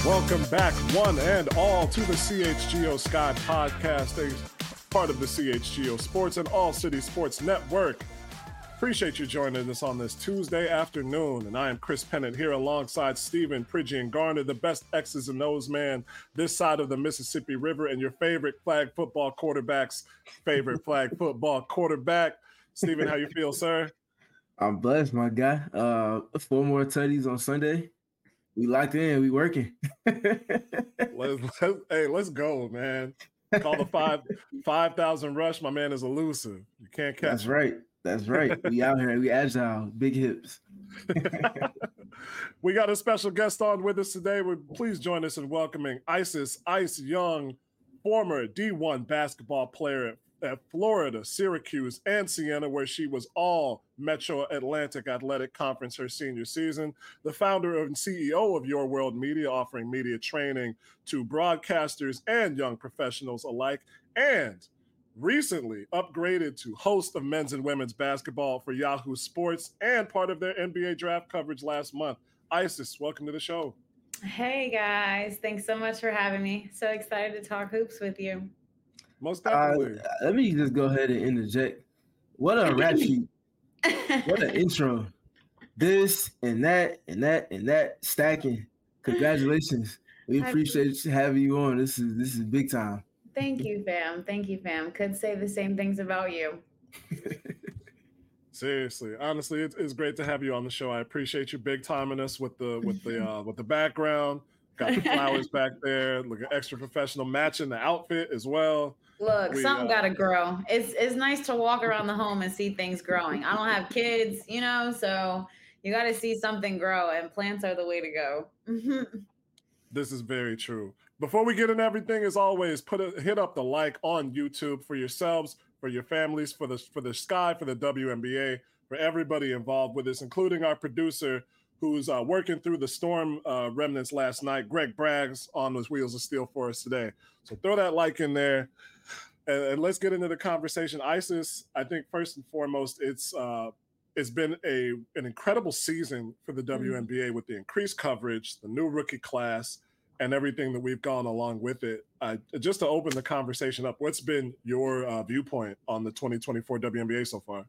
Welcome back, one and all, to the CHGO Sky Podcast, a part of the CHGO Sports and All City Sports Network. Appreciate you joining us on this Tuesday afternoon, and I am Chris Pennant here alongside Stephen Pridgian Garner, the best X's and O's man this side of the Mississippi River, and your favorite flag football quarterback's favorite flag football quarterback. Stephen, how you feel, sir? I'm blessed, my guy. 4 more tutties on Sunday. We locked in. We working. Let's go, man. Call the 5,000 rush. My man is elusive. You can't catch That's him. right. That's right. We out here. We agile. Big hips. We got a special guest on with us today. Please join us in welcoming Isis Ice Young, former D1 basketball player at Florida, Syracuse, and Siena, where she was all Metro Atlantic Athletic Conference her senior season, the founder and CEO of Your World Media, offering media training to broadcasters and young professionals alike, and recently upgraded to host of men's and women's basketball for Yahoo Sports and part of their NBA draft coverage last month. Isis, welcome to the show. Hey, guys. Thanks so much for having me. So excited to talk hoops with you. Most definitely. Let me just go ahead and interject. What a rap sheet. What an intro. This and that and that and that stacking. Congratulations. We appreciate having you on. This is big time. Thank you, fam. Thank you, fam. Could say the same things about you. Seriously, honestly, it's great to have you on the show. I appreciate you big timing us with the background. Got the flowers back there. Look at extra professional, matching the outfit as well. Look, something gotta grow. It's nice to walk around the home and see things growing. I don't have kids, so you got to see something grow, and plants are the way to go. This is very true. Before we get into everything, as always, hit up the like on YouTube for yourselves, for your families, for the Sky, for the WNBA, for everybody involved with this, including our producer who's working through the storm remnants last night. Greg Braggs on those Wheels of Steel for us today. So throw that like in there, and let's get into the conversation. Isis, I think first and foremost, it's been an incredible season for the WNBA with the increased coverage, the new rookie class, and everything that we've gone along with it. Just to open the conversation up, what's been your viewpoint on the 2024 WNBA so far?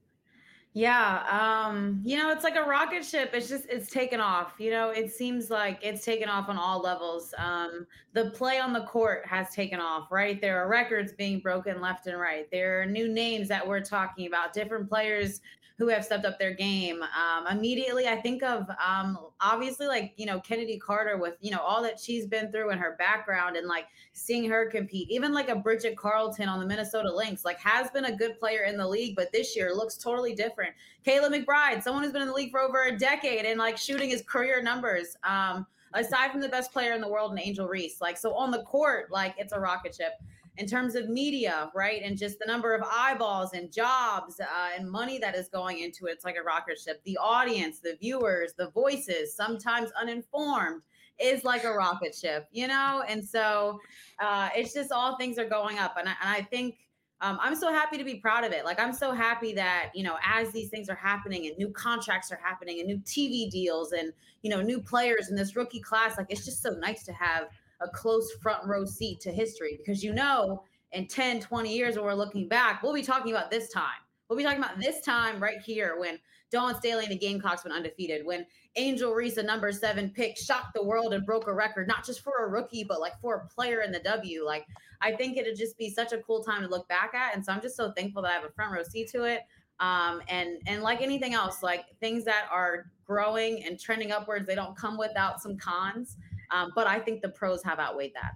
Yeah, it's like a rocket ship. It's taken off. It seems like it's taken off on all levels. The play on the court has taken off, right? There are records being broken left and right. There are new names that we're talking about, different players who have stepped up their game. Immediately, I think of obviously Kennedy Carter with all that she's been through and her background, and seeing her compete. Even a Bridget Carlton on the Minnesota Lynx, has been a good player in the league, but this year looks totally different. Kayla McBride, someone who's been in the league for over a decade and shooting his career numbers. Aside from the best player in the world, and Angel Reese, so on the court, it's a rocket ship. In terms of media, right, and just the number of eyeballs and jobs and money that is going into it, it's like a rocket ship. The audience, the viewers, the voices, sometimes uninformed, is like a rocket ship, And so it's just all things are going up. And I think I'm so happy to be proud of it. I'm so happy that, as these things are happening and new contracts are happening and new TV deals and, new players in this rookie class, it's just so nice to have a close front row seat to history, because in 10, 20 years when we're looking back, we'll be talking about this time. We'll be talking about this time right here when Dawn Staley and the Gamecocks went undefeated, when Angel Reese, a number 7 pick, shocked the world and broke a record, not just for a rookie, but for a player in the W. I think it'd just be such a cool time to look back at. And so I'm just so thankful that I have a front row seat to it. And like anything else, things that are growing and trending upwards, they don't come without some cons. But I think the pros have outweighed that.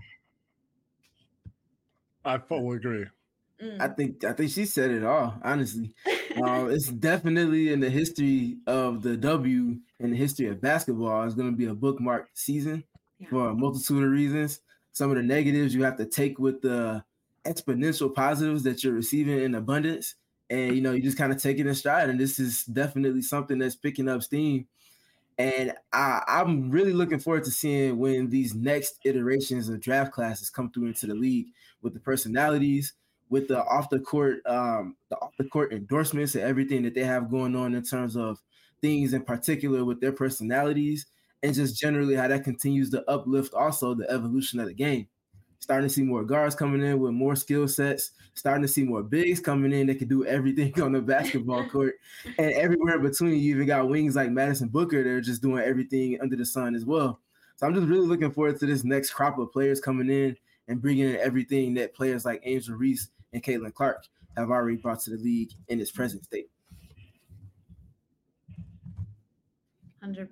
I fully agree. I think she said it all, honestly. It's definitely in the history of the W and the history of basketball. It's going to be a bookmarked season for a multitude of reasons. Some of the negatives you have to take with the exponential positives that you're receiving in abundance. And, you just kind of take it in stride. And this is definitely something that's picking up steam. And I'm really looking forward to seeing when these next iterations of draft classes come through into the league, with the personalities, with the off the court endorsements and everything that they have going on in terms of things in particular with their personalities, and just generally how that continues to uplift also the evolution of the game. Starting to see more guards coming in with more skill sets, starting to see more bigs coming in that can do everything on the basketball court. And everywhere between, you even got wings like Madison Booker. They're just doing everything under the sun as well. So I'm just really looking forward to this next crop of players coming in and bringing in everything that players like Angel Reese and Caitlin Clark have already brought to the league in its present state. 100%.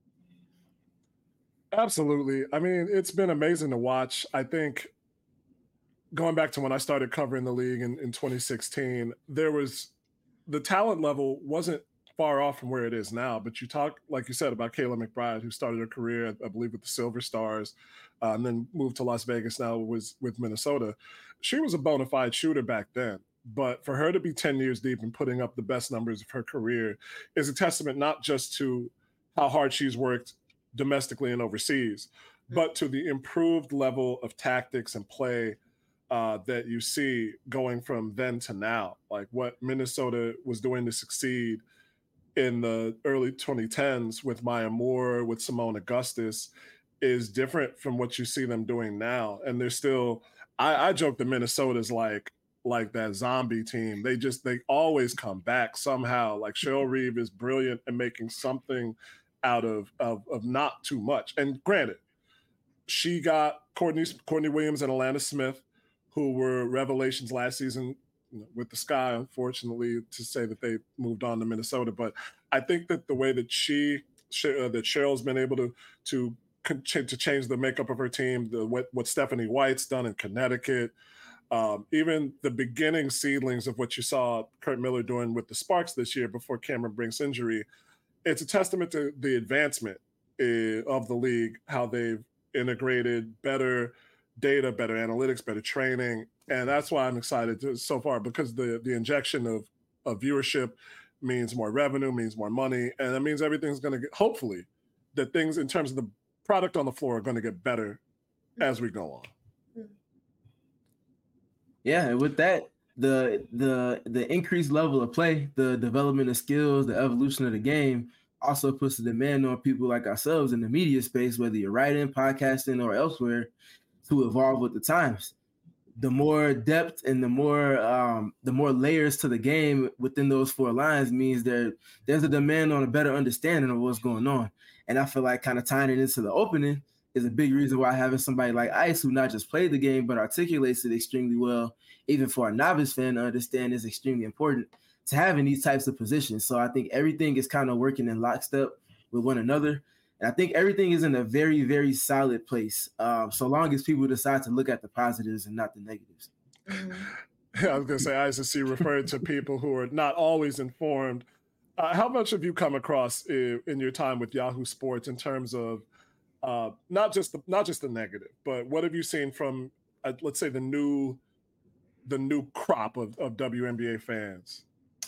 Absolutely. I mean, it's been amazing to watch. I think going back to when I started covering the league in 2016, the talent level wasn't far off from where it is now. But you talk, like you said, about Kayla McBride, who started her career, I believe, with the Silver Stars, and then moved to Las Vegas now was with Minnesota. She was a bona fide shooter back then. But for her to be 10 years deep and putting up the best numbers of her career is a testament not just to how hard she's worked domestically and overseas, but to the improved level of tactics and play that you see going from then to now. Like what Minnesota was doing to succeed in the early 2010s with Maya Moore, with Simone Augustus, is different from what you see them doing now. And they're still, I joke that Minnesota's like that zombie team. They always come back somehow. Like Cheryl Reeve is brilliant at making something out of not too much. And granted, she got Courtney Williams and Alana Smith, who were revelations last season with the Sky, unfortunately, to say that they moved on to Minnesota. But I think that the way that that Cheryl's been able to change the makeup of her team, what Stephanie White's done in Connecticut, even the beginning seedlings of what you saw Kurt Miller doing with the Sparks this year before Cameron Brink's injury, it's a testament to the advancement of the league, how they've integrated better data, better analytics, better training. And that's why I'm excited so far, because the injection of viewership means more revenue, means more money. And that means everything's going to get, hopefully, that things in terms of the product on the floor are going to get better as we go on. Yeah, and with that, the increased level of play, the development of skills, the evolution of the game also puts the demand on people like ourselves in the media space, whether you're writing, podcasting, or elsewhere, to evolve with the times. The more depth and the more layers to the game within those four lines means there's a demand on a better understanding of what's going on. And I feel like kind of tying it into the opening is a big reason why having somebody like Ice, who not just played the game, but articulates it extremely well, even for a novice fan to understand, is extremely important to have in these types of positions. So I think everything is kind of working in lockstep with one another. And I think everything is in a very, very solid place, so long as people decide to look at the positives and not the negatives. I was going to say, Ice, you referred to people who are not always informed. How much have you come across in your time with Yahoo Sports in terms of not just the negative, but what have you seen from, let's say, the new crop of WNBA fans?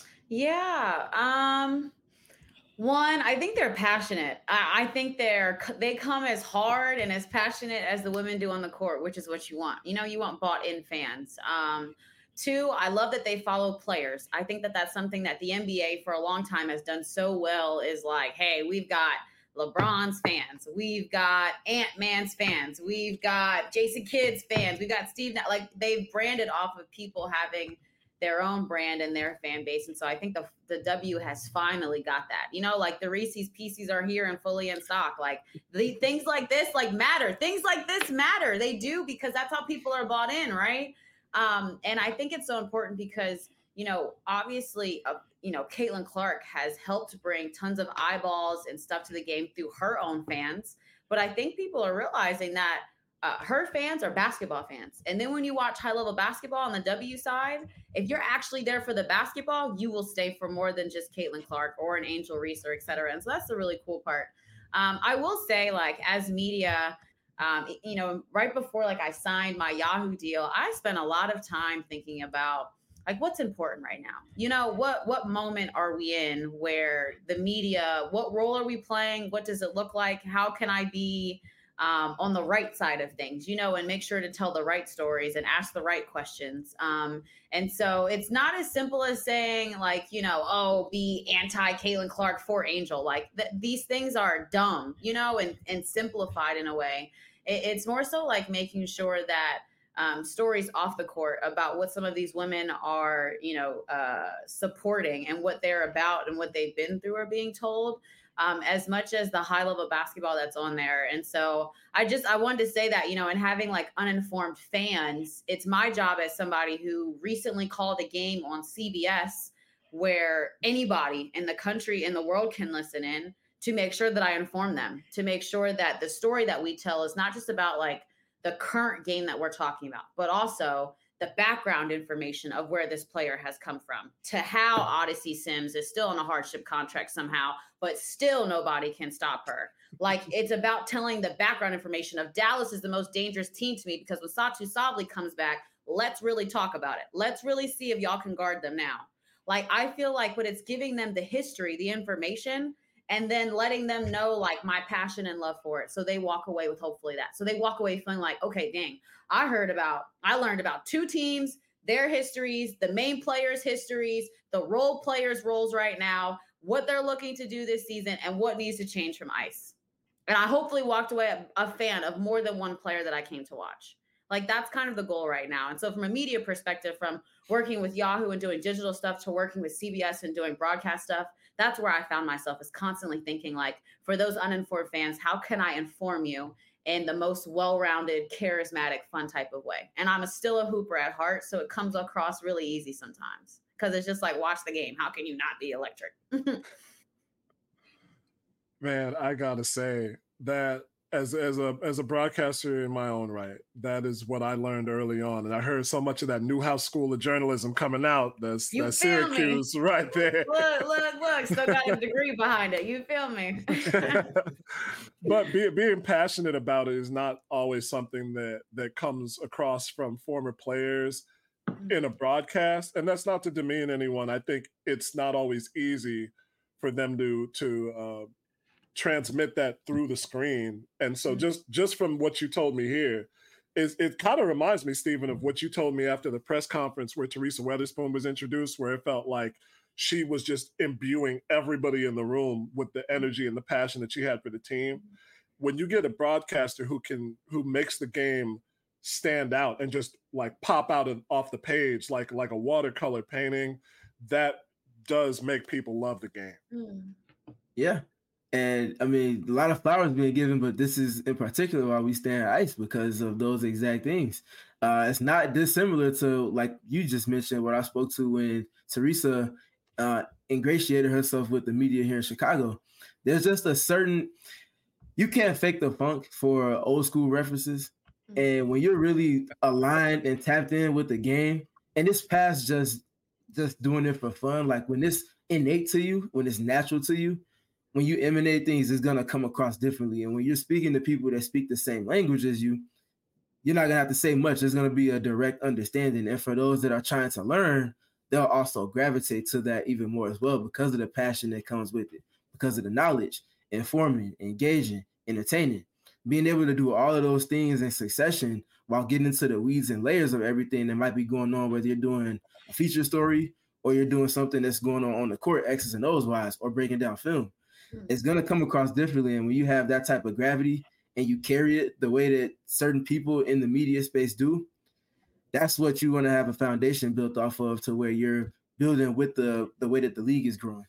Yeah. One, I think they're passionate. I think they come as hard and as passionate as the women do on the court, which is what you want. You want bought-in fans. Two, I love that they follow players. I think that that's something that the NBA for a long time has done so well, is like, hey, we've got LeBron's fans, we've got Ant-Man's fans, we've got Jason Kidd's fans, we've got Steve. Like, they've branded off of people having their own brand and their fan base. And so I think the W has finally got that. Like the Reese's Pieces are here and fully in stock. Like things like this matter. Things like this matter. They do, because that's how people are bought in, right? And I think it's so important because, obviously, Caitlin Clark has helped bring tons of eyeballs and stuff to the game through her own fans. But I think people are realizing that her fans are basketball fans. And then when you watch high-level basketball on the W side, if you're actually there for the basketball, you will stay for more than just Caitlin Clark or an Angel Reese or et cetera. And so that's the really cool part. I will say, like, as media, right before I signed my Yahoo deal, I spent a lot of time thinking about what's important right now. What moment are we in where the media, what role are we playing? What does it look like? How can I be on the right side of things, and make sure to tell the right stories and ask the right questions. And so it's not as simple as saying like, oh, be anti Caitlin Clark for Angel. Like these things are dumb, and simplified in a way. It's more so like making sure that stories off the court about what some of these women are, supporting and what they're about and what they've been through are being told. As much as the high level basketball that's on there. And so I wanted to say that, and having like uninformed fans, it's my job as somebody who recently called a game on CBS where anybody in the country, in the world can listen in, to make sure that I inform them, to make sure that the story that we tell is not just about like the current game that we're talking about, but also the background information of where this player has come from, to how Odyssey Sims is still in a hardship contract somehow, but still nobody can stop her. Like it's about telling the background information of Dallas is the most dangerous team to me because when Satu Sabli comes back, let's really talk about it. Let's really see if y'all can guard them now. Like I feel like when it's giving them the history, the information, and then letting them know like my passion and love for it. So they walk away with hopefully that. So they walk away feeling like, okay, dang, I learned about two teams, their histories, the main players' histories, the role players' roles right now, what they're looking to do this season, and what needs to change from ice. And I hopefully walked away a fan of more than one player that I came to watch. Like that's kind of the goal right now. And so from a media perspective, from working with Yahoo and doing digital stuff to working with CBS and doing broadcast stuff, that's where I found myself is constantly thinking like, for those uninformed fans, how can I inform you in the most well-rounded, charismatic, fun type of way? And I'm still a hooper at heart, so it comes across really easy sometimes because it's just like, watch the game. How can you not be electric? Man, I gotta say that as a broadcaster in my own right, that is what I learned early on, and I heard so much of that Newhouse School of Journalism coming out. That's Syracuse right there. Look! Still got a degree behind it. You feel me? But being passionate about it is not always something that comes across from former players in a broadcast, and that's not to demean anyone. I think it's not always easy for them to transmit that through the screen. And so just from what you told me here, it kind of reminds me, Stephen, of what you told me after the press conference where Teresa Weatherspoon was introduced, where it felt like she was just imbuing everybody in the room with the energy and the passion that she had for the team. When you get a broadcaster who makes the game stand out and just like pop out off the page like a watercolor painting, that does make people love the game. Yeah. And I mean, a lot of flowers being given, but this is in particular why we stand ice because of those exact things. It's not dissimilar to, like you just mentioned, what I spoke to when Teresa ingratiated herself with the media here in Chicago. There's just a certain, you can't fake the funk for old school references. And when you're really aligned and tapped in with the game, and it's past just doing it for fun, like when it's innate to you, when it's natural to you, when you emanate things, it's going to come across differently. And when you're speaking to people that speak the same language as you, you're not going to have to say much. There's going to be a direct understanding. And for those that are trying to learn, they'll also gravitate to that even more as well because of the passion that comes with it, because of the knowledge, informing, engaging, entertaining. Being able to do all of those things in succession while getting into the weeds and layers of everything that might be going on, whether you're doing a feature story or you're doing something that's going on the court, X's and O's wise, or breaking down film. It's going to come across differently. And when you have that type of gravity and you carry it the way that certain people in the media space do, that's what you want to have a foundation built off of, to where you're building with the way that the league is growing.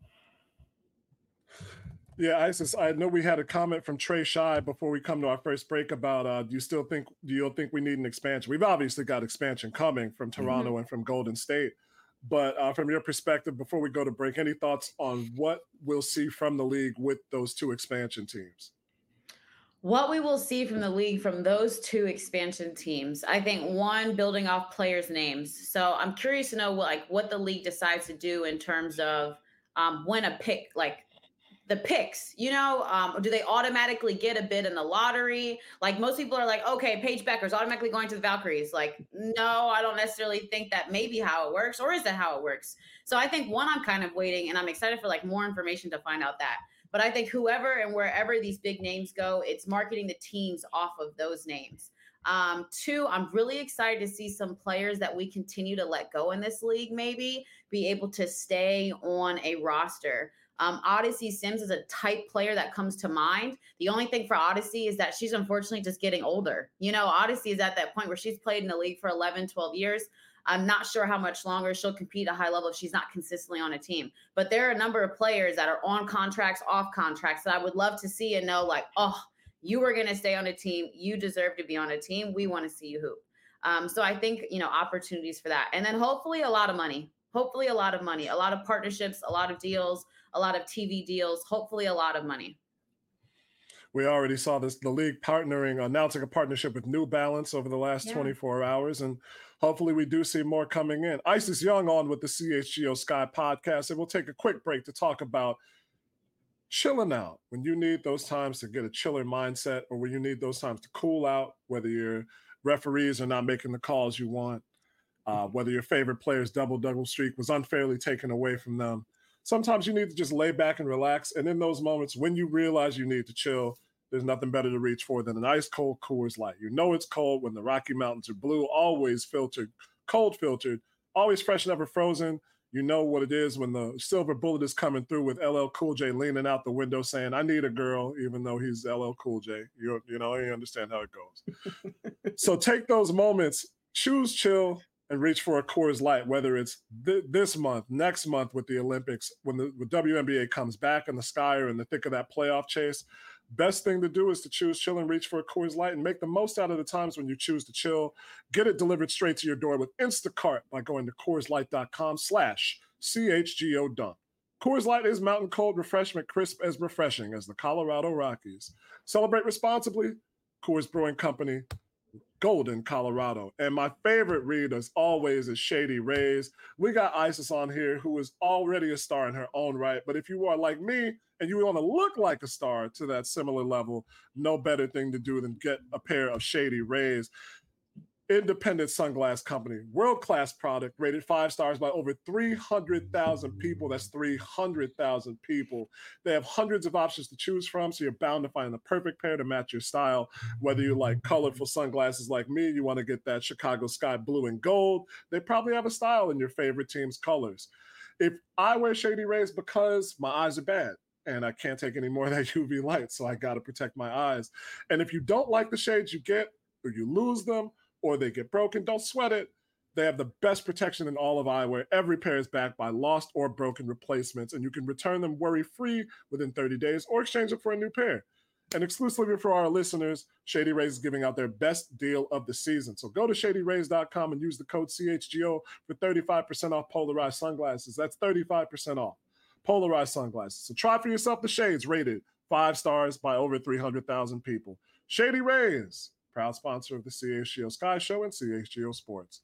Yeah, Isis, I know we had a comment from Trey Shy before we come to our first break about do you think we need an expansion? We've obviously got expansion coming from Toronto and from Golden State. But from your perspective, before we go to break, any thoughts on what we'll see from the league with those two expansion teams? What we will see from the league from those two expansion teams, I think, one, building off players' names. So I'm curious to know what the league decides to do in terms of when a pick, like the picks, you know, do they automatically get a bid in the lottery? Like most people are like, okay, Paige Becker's automatically going to the Valkyries. Like, no, I don't necessarily think that may be how it works, or is that how it works? So I think one, I'm kind of waiting, and I'm excited for like more information to find out that. But I think whoever and wherever these big names go, it's marketing the teams off of those names. Two, I'm really excited to see some players that we continue to let go in this league, maybe be able to stay on a roster. Odyssey Sims is a type player that comes to mind. The only thing for Odyssey is that she's unfortunately just getting older. You know, Odyssey is at that point where she's played in the league for 11, 12 years. I'm not sure how much longer she'll compete at a high level if she's not consistently on a team. But there are a number of players that are on contracts, off contracts that I would love to see and know, like, oh, you were going to stay on a team. You deserve to be on a team. We want to see you hoop. So I think, you know, opportunities for that. And then hopefully a lot of money. Hopefully a lot of money, a lot of partnerships, a lot of deals, a lot of TV deals, hopefully a lot of money. We already saw this, the league announcing a partnership with New Balance over the last 24 hours. And hopefully we do see more coming in. Isis Young on with the CHGO Sky podcast. And we'll take a quick break to talk about chilling out when you need those times to get a chiller mindset, or when you need those times to cool out, whether your referees are not making the calls you want, whether your favorite player's double streak was unfairly taken away from them. Sometimes you need to just lay back and relax. And in those moments, when you realize you need to chill, there's nothing better to reach for than an ice cold Coors Light. You know it's cold when the Rocky Mountains are blue, always filtered, cold filtered, always fresh, never frozen. You know what it is when the silver bullet is coming through with LL Cool J leaning out the window saying, I need a girl, even though he's LL Cool J. You know, you understand how it goes. So take those moments, choose chill, and reach for a Coors Light, whether it's this month, next month with the Olympics, when the WNBA comes back and the Sky are in the thick of that playoff chase. Best thing to do is to choose chill and reach for a Coors Light and make the most out of the times when you choose to chill. Get it delivered straight to your door with Instacart by going to CoorsLight.com/CHGO Dunk. Coors Light is mountain cold refreshment, crisp as refreshing as the Colorado Rockies. Celebrate responsibly. Coors Brewing Company, Golden, Colorado. And my favorite read, as always, is Shady Rays. We got Isis on here, who is already a star in her own right. But if you are like me and you want to look like a star to that similar level, no better thing to do than get a pair of Shady Rays. Independent sunglass company, world-class product, rated 5 stars by over 300,000 people. That's 300,000 people. They have hundreds of options to choose from, so you're bound to find the perfect pair to match your style. Whether you like colorful sunglasses like me, you want to get that Chicago sky blue and gold, they probably have a style in your favorite team's colors. If I wear Shady Rays because my eyes are bad and I can't take any more of that UV light, so I got to protect my eyes. And if you don't like the shades you get, or you lose them, or they get broken, don't sweat it. They have the best protection in all of eyewear. Every pair is backed by lost or broken replacements, and you can return them worry-free within 30 days or exchange it for a new pair. And exclusively for our listeners, Shady Rays is giving out their best deal of the season. So go to shadyrays.com and use the code CHGO for 35% off polarized sunglasses. That's 35% off polarized sunglasses. So try for yourself the shades rated 5 stars by over 300,000 people. Shady Rays, proud sponsor of the CHGO Sky Show and CHGO Sports.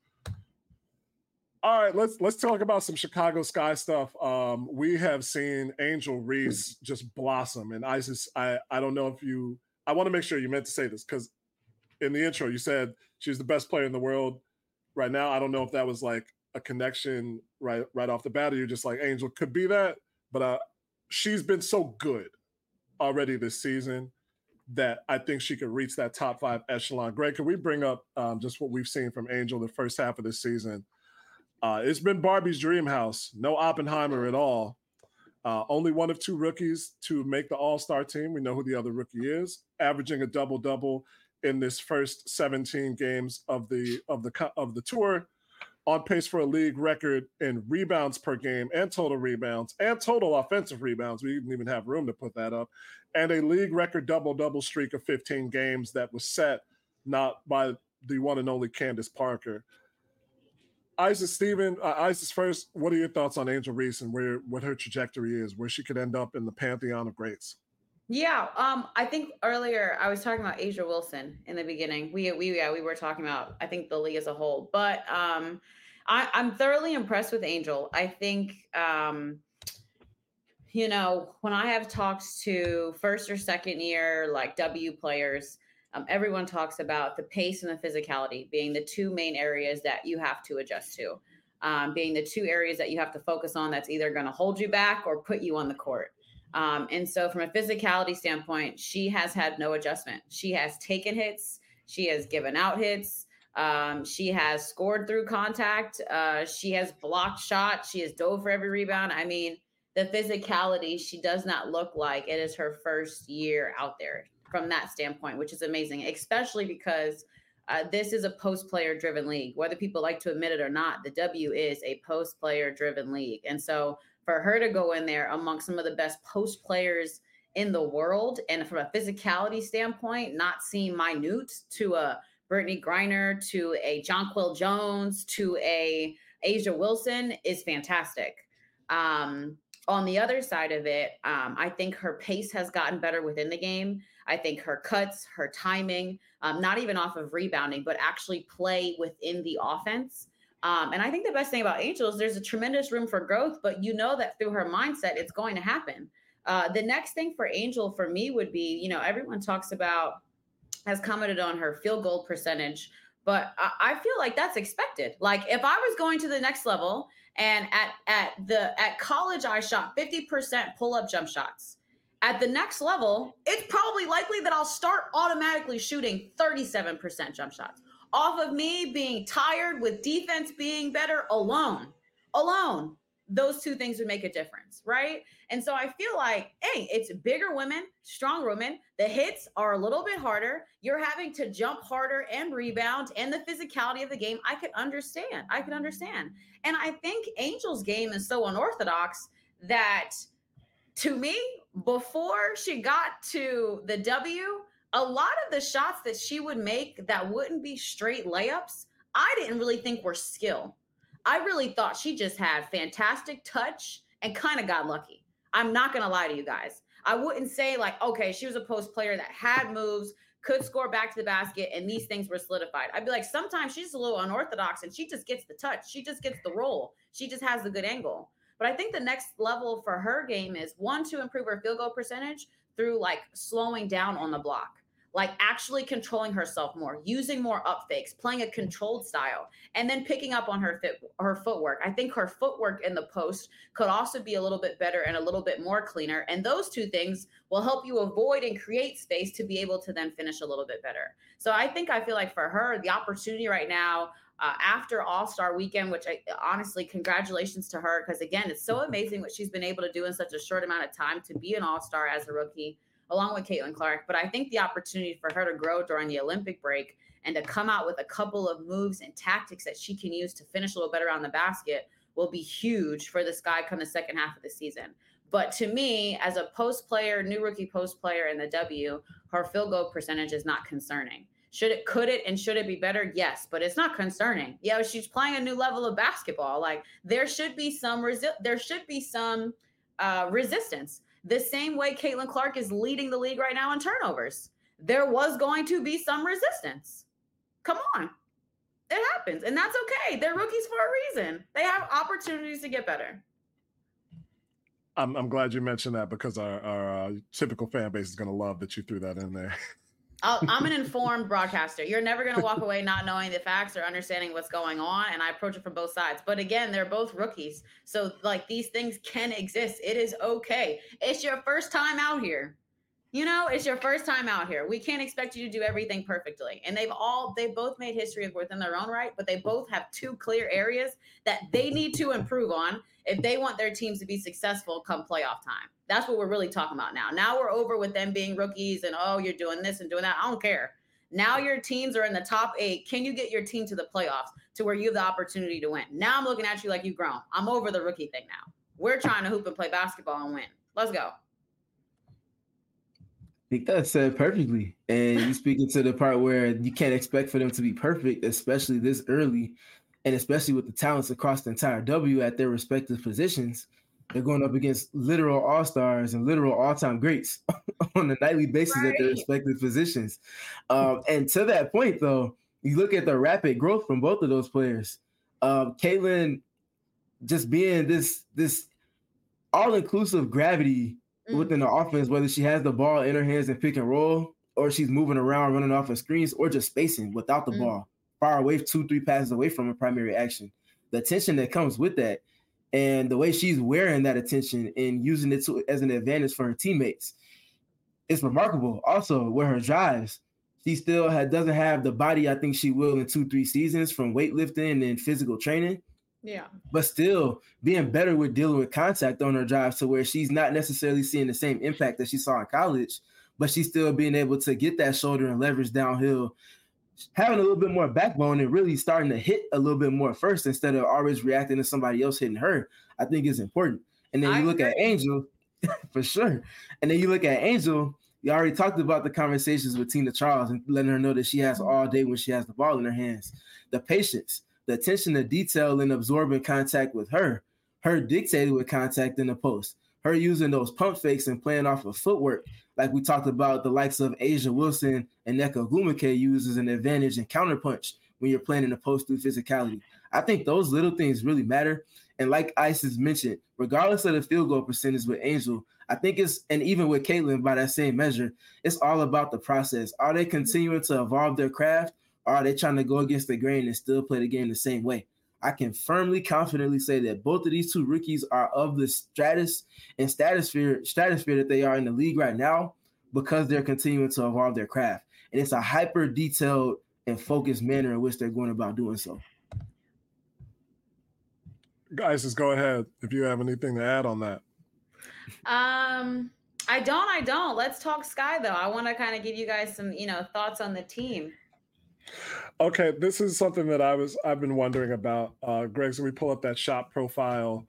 All right, let's talk about some Chicago Sky stuff. We have seen Angel Reese just blossom. And Isis, I don't know if I want to make sure you meant to say this, because in the intro you said she's the best player in the world right now. I don't know if that was like a connection right off the bat, or you're just like, Angel could be that. But she's been so good already this season that I think she could reach that top 5 echelon. Greg, can we bring up just what we've seen from Angel the first half of this season? It's been Barbie's dream house. No Oppenheimer at all. Only one of 2 rookies to make the All-Star team. We know who the other rookie is. Averaging a double-double in this first 17 games of the tour. On pace for a league record in rebounds per game and total rebounds and total offensive rebounds. We didn't even have room to put that up. And a league record double-double streak of 15 games that was set not by the one and only Candace Parker. Isis first, what are your thoughts on Angel Reese and what her trajectory is, where she could end up in the pantheon of greats? Yeah, I think earlier I was talking about A'ja Wilson in the beginning. We were talking about, I think, the league as a whole, but I'm thoroughly impressed with Angel. I think you know, when I have talked to first or second year, like W players, everyone talks about the pace and the physicality being the two main areas that you have to adjust to, being the two areas that you have to focus on that's either going to hold you back or put you on the court. And so from a physicality standpoint, she has had no adjustment. She has taken hits. She has given out hits. She has scored through contact. She has blocked shots. She has dove for every rebound. I mean, the physicality, she does not look like it is her first year out there from that standpoint, which is amazing, especially because this is a post-player driven league. Whether people like to admit it or not, the W is a post-player driven league. And so for her to go in there amongst some of the best post players in the world, and from a physicality standpoint, not seem minute to a Brittany Griner, to a Jonquel Jones, to a Asia Wilson is fantastic. On the other side of it, I think her pace has gotten better within the game. I think her cuts, her timing, not even off of rebounding, but actually play within the offense. And I think the best thing about Angel is there's a tremendous room for growth, but you know that through her mindset, it's going to happen. The next thing for Angel for me would be, you know, everyone talks about, has commented on her field goal percentage, but I feel like that's expected. Like if I was going to the next level and at college, I shot 50% pull-up jump shots. At the next level, it's probably likely that I'll start automatically shooting 37% jump shots off of me being tired, with defense being better alone. Those two things would make a difference, right? And so I feel like, hey, it's bigger women, strong women. The hits are a little bit harder. You're having to jump harder and rebound, and the physicality of the game, I could understand. And I think Angel's game is so unorthodox that, to me, before she got to the W, a lot of the shots that she would make that wouldn't be straight layups, I didn't really think were skill. I really thought she just had fantastic touch and kind of got lucky. I'm not going to lie to you guys. I wouldn't say like, okay, she was a post player that had moves, could score back to the basket, and these things were solidified. I'd be like, sometimes she's a little unorthodox and she just gets the touch. She just gets the roll. She just has the good angle. But I think the next level for her game is, one, to improve her field goal percentage through like slowing down on the block, like actually controlling herself more, using more up fakes, playing a controlled style, and then picking up on her footwork. I think her footwork in the post could also be a little bit better and a little bit more cleaner. And those two things will help you avoid and create space to be able to then finish a little bit better. So I feel like for her, the opportunity right now, after All-Star Weekend, which honestly, congratulations to her, because again, it's so amazing what she's been able to do in such a short amount of time to be an All-Star as a rookie, along with Caitlin Clark. But I think the opportunity for her to grow during the Olympic break and to come out with a couple of moves and tactics that she can use to finish a little better on the basket will be huge for the Sky come the second half of the season. But to me, as a post player, new rookie post player in the W, her field goal percentage is not concerning. Could it and should it be better? Yes, but it's not concerning. Yeah, she's playing a new level of basketball. Like there should be some resistance. The same way Caitlin Clark is leading the league right now in turnovers. There was going to be some resistance. Come on. It happens. And that's okay. They're rookies for a reason. They have opportunities to get better. I'm glad you mentioned that, because our typical fan base is going to love that you threw that in there. I'm an informed broadcaster. You're never going to walk away not knowing the facts or understanding what's going on. And I approach it from both sides. But again, they're both rookies. So like these things can exist. It is okay. It's your first time out here. You know, it's your first time out here. We can't expect you to do everything perfectly. And they both made history within their own right, but they both have two clear areas that they need to improve on if they want their teams to be successful come playoff time. That's what we're really talking about now. Now we're over with them being rookies and, oh, you're doing this and doing that. I don't care. Now your teams are in the top 8. Can you get your team to the playoffs to where you have the opportunity to win? Now I'm looking at you like you've grown. I'm over the rookie thing now. We're trying to hoop and play basketball and win. Let's go. I think that's said perfectly. And you speaking to the part where you can't expect for them to be perfect, especially this early, and especially with the talents across the entire W at their respective positions. They're going up against literal all-stars and literal all-time greats on a nightly basis at their respective positions. And to that point, though, you look at the rapid growth from both of those players. Caitlin just being this all-inclusive gravity within the offense, whether she has the ball in her hands and pick and roll, or she's moving around, running off of screens, or just spacing without the ball, far away, 2-3 passes away from her primary action. The attention that comes with that, and the way she's wearing that attention and using it as an advantage for her teammates, it's remarkable. Also, with her drives, she still doesn't have the body I think she will in 2-3 seasons from weightlifting and physical training. Yeah. But still being better with dealing with contact on her drives to where she's not necessarily seeing the same impact that she saw in college, but she's still being able to get that shoulder and leverage downhill, having a little bit more backbone and really starting to hit a little bit more first instead of always reacting to somebody else hitting her, I think is important. And then you look at Angel, for sure. And then you look at Angel, you already talked about the conversations with Tina Charles and letting her know that she has all day when she has the ball in her hands. The patience, the attention to detail and absorbing contact with her dictated with contact in the post, her using those pump fakes and playing off of footwork, like we talked about the likes of A'ja Wilson and Nneka Ogwumike use as an advantage and counterpunch when you're playing in the post through physicality. I think those little things really matter. And like Isis mentioned, regardless of the field goal percentage with Angel, I think and even with Caitlin by that same measure, it's all about the process. Are they continuing to evolve their craft? Or are they trying to go against the grain and still play the game the same way? I can firmly, confidently say that both of these two rookies are of the stratosphere that they are in the league right now because they're continuing to evolve their craft. And it's a hyper detailed and focused manner in which they're going about doing so. Guys, just go ahead if you have anything to add on that. I don't. Let's talk Sky though. I want to kind of give you guys some, thoughts on the team. Okay, this is something that I've been wondering about. Greg, so we pull up that shot profile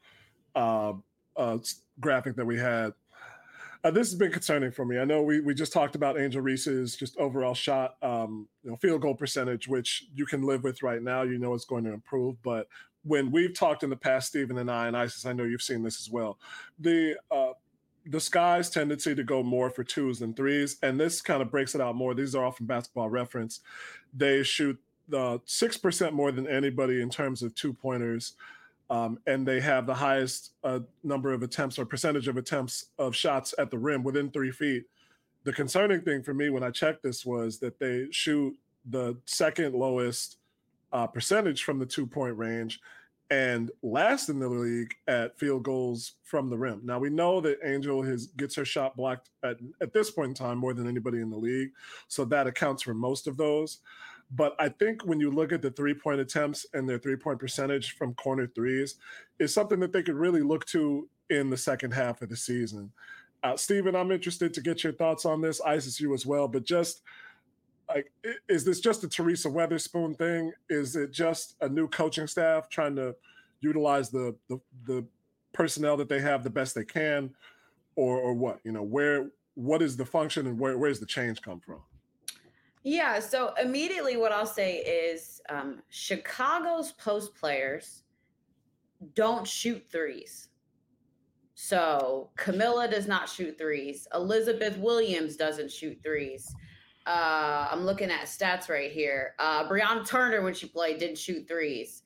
graphic that we had. This has been concerning for me. I know we just talked about Angel Reese's just overall shot, field goal percentage, which you can live with right now. You know it's going to improve. But when we've talked in the past, Stephen and I, and Isis, I know you've seen this as well. The Sky's tendency to go more for 2s than 3s, and this kind of breaks it out more. These are all from Basketball Reference. They shoot 6% more than anybody in terms of 2-pointers, and they have the highest number of attempts or percentage of attempts of shots at the rim within 3 feet. The concerning thing for me when I checked this was that they shoot the second lowest percentage from the 2-point range and last in the league at field goals from the rim. Now, we know that Angel gets her shot blocked at this point in time more than anybody in the league, so that accounts for most of those. But I think when you look at the 3-point attempts and their 3-point percentage from corner threes, is something that they could really look to in the second half of the season. Stephen, I'm interested to get your thoughts on this. Isis, you as well, but just like, is this just a Teresa Weatherspoon thing? Is it just a new coaching staff trying to utilize the personnel that they have the best they can, or what? What is the function and where's the change come from? Yeah, so immediately what I'll say is Chicago's post players don't shoot threes. So Camilla does not shoot threes. Elizabeth Williams doesn't shoot threes. I'm looking at stats right here. Brianna Turner, when she played, didn't shoot threes.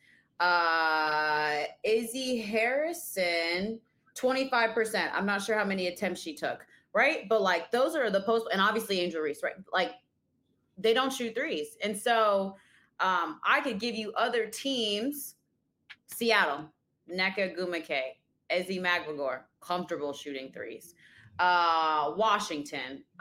Izzy Harrison, 25%. I'm not sure how many attempts she took, right? But like those are the post, and obviously Angel Reese, right? Like they don't shoot threes. And so I could give you other teams. Seattle, Nneka Ogwumike, Ezi Magbegor, comfortable shooting threes. Washington,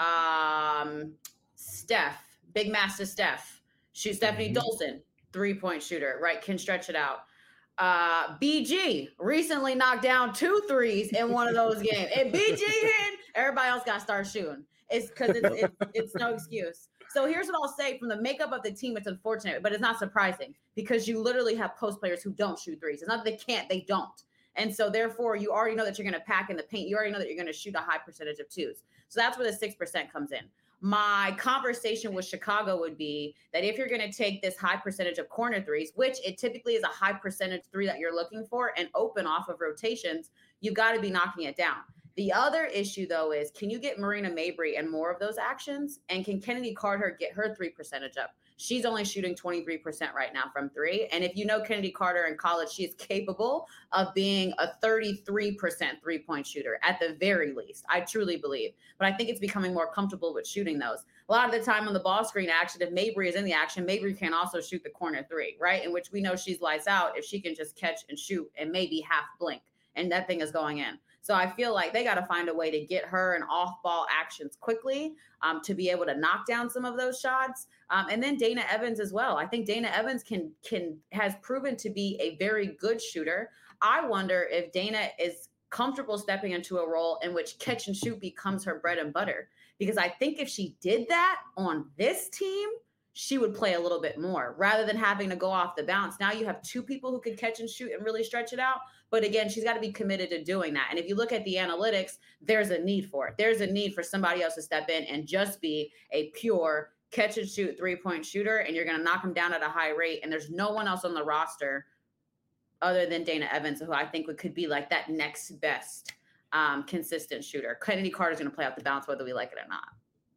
Steph, Big Master Steph, Stephanie Dolson, 3-point shooter, right? Can stretch it out. BG recently knocked down 2 threes in one of those games. And BG hitting, everybody else got to start shooting. It's because it's no excuse. So here's what I'll say from the makeup of the team. It's unfortunate, but it's not surprising because you literally have post players who don't shoot threes. It's not that they can't, they don't. And so therefore you already know that you're going to pack in the paint. You already know that you're going to shoot a high percentage of 2s. So that's where the 6% comes in. My conversation with Chicago would be that if you're going to take this high percentage of corner threes, which it typically is a high percentage 3 that you're looking for and open off of rotations, you got to be knocking it down. The other issue, though, is can you get Marina Mabrey and more of those actions? And can Kennedy Carter get her 3 percentage up? She's only shooting 23% right now from three. And if you know Kennedy Carter in college, she is capable of being a 33% three-point shooter at the very least. I truly believe. But I think it's becoming more comfortable with shooting those. A lot of the time on the ball screen action, if Mabry is in the action, Mabry can also shoot the corner three, right? In which we know she's lights out if she can just catch and shoot and maybe half blink. And that thing is going in. So I feel like they got to find a way to get her in off-ball actions quickly to be able to knock down some of those shots. And then Dana Evans as well. I think Dana Evans has proven to be a very good shooter. I wonder if Dana is comfortable stepping into a role in which catch and shoot becomes her bread and butter. Because I think if she did that on this team, she would play a little bit more rather than having to go off the bounce. Now you have two people who can catch and shoot and really stretch it out. But again, she's got to be committed to doing that. And if you look at the analytics, there's a need for it. There's a need for somebody else to step in and just be a pure catch and shoot three-point shooter, and you're going to knock them down at a high rate. And there's no one else on the roster other than Dana Evans, who I think could be like that next best consistent shooter. Kennedy Carter's going to play out the bounce whether we like it or not.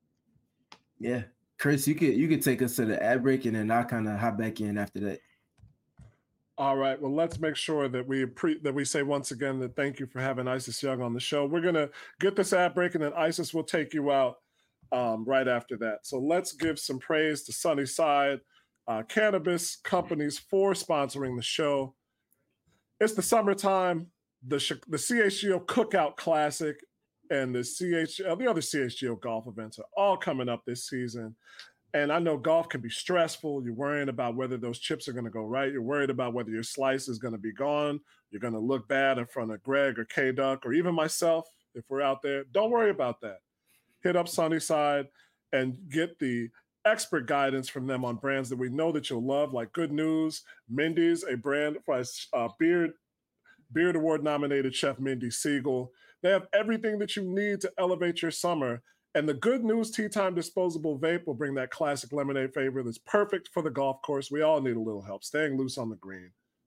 Yeah. Chris, you could take us to the ad break, and then I'll kind of hop back in after that. All right. Well, let's make sure that we say once again that thank you for having Isis Young on the show. We're gonna get this ad break, and then Isis will take you out right after that. So let's give some praise to Sunnyside Cannabis Companies for sponsoring the show. It's the summertime. The CHGO Cookout Classic and the other CHGO golf events are all coming up this season. And I know golf can be stressful. You're worrying about whether those chips are going to go right. You're worried about whether your slice is going to be gone. You're going to look bad in front of Greg or K-Duck or even myself if we're out there. Don't worry about that. Hit up Sunnyside and get the expert guidance from them on brands that we know that you'll love, like Good News, Mindy's, a brand by Beard Award nominated chef Mindy Siegel. They have everything that you need to elevate your summer. And the Good News Tea Time disposable vape will bring that classic lemonade flavor that's perfect for the golf course. We all need a little help staying loose on the green.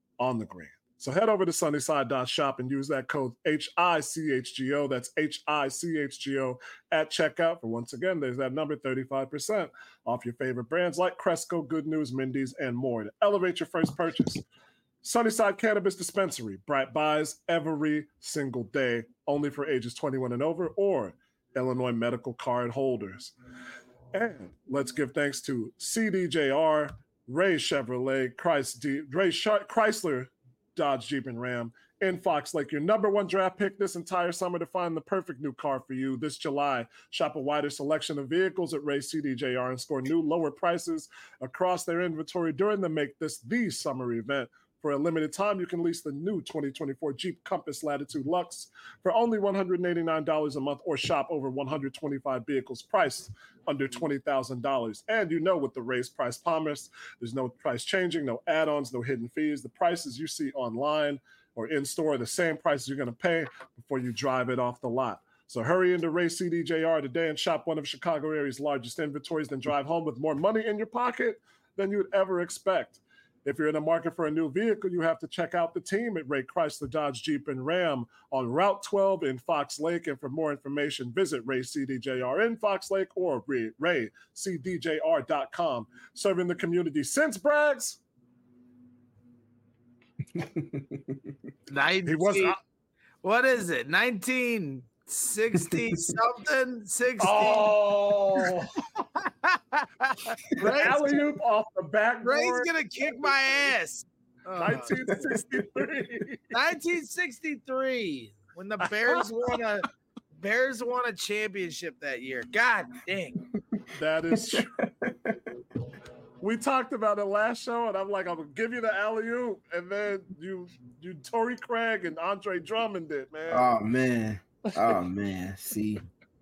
So head over to sunnyside.shop and use that code HICHGO. That's HICHGO at checkout. For once again, there's that number, 35% off your favorite brands like Cresco, Good News, Mindy's, and more to elevate your first purchase. Sunnyside Cannabis Dispensary, bright buys every single day, only for ages 21 and over or Illinois medical card holders. And let's give thanks to CDJR, Ray Chevrolet, Chrysler, Dodge, Jeep, and Ram in Fox Lake. Your number one draft pick this entire summer to find the perfect new car for you this July. Shop a wider selection of vehicles at Ray CDJR and score new lower prices across their inventory during the Make This the Summer event. For a limited time, you can lease the new 2024 Jeep Compass Latitude Luxe for only $189 a month or shop over 125 vehicles priced under $20,000. And you know, with the raised price promise, there's no price changing, no add-ons, no hidden fees. The prices you see online or in-store are the same prices you're going to pay before you drive it off the lot. So hurry into Ray CDJR today and shop one of Chicago area's largest inventories, then drive home with more money in your pocket than you'd ever expect. If you're in the market for a new vehicle, you have to check out the team at Ray Chrysler, Dodge, Jeep, and Ram on Route 12 in Fox Lake. And for more information, visit Ray CDJR in Fox Lake or RayCDJR.com. Serving the community since Braggs. What is it? 1960 something? 60. Oh, alley-oop off the backboard. Ray's gonna kick my ass. 1963. 1963, when the Bears won a championship that year. God dang. That is true. We talked about it last show, and I'm like, I'm gonna give you the alley-oop, and then you Torrey Craig and Andre Drummond did, man. Oh man. See.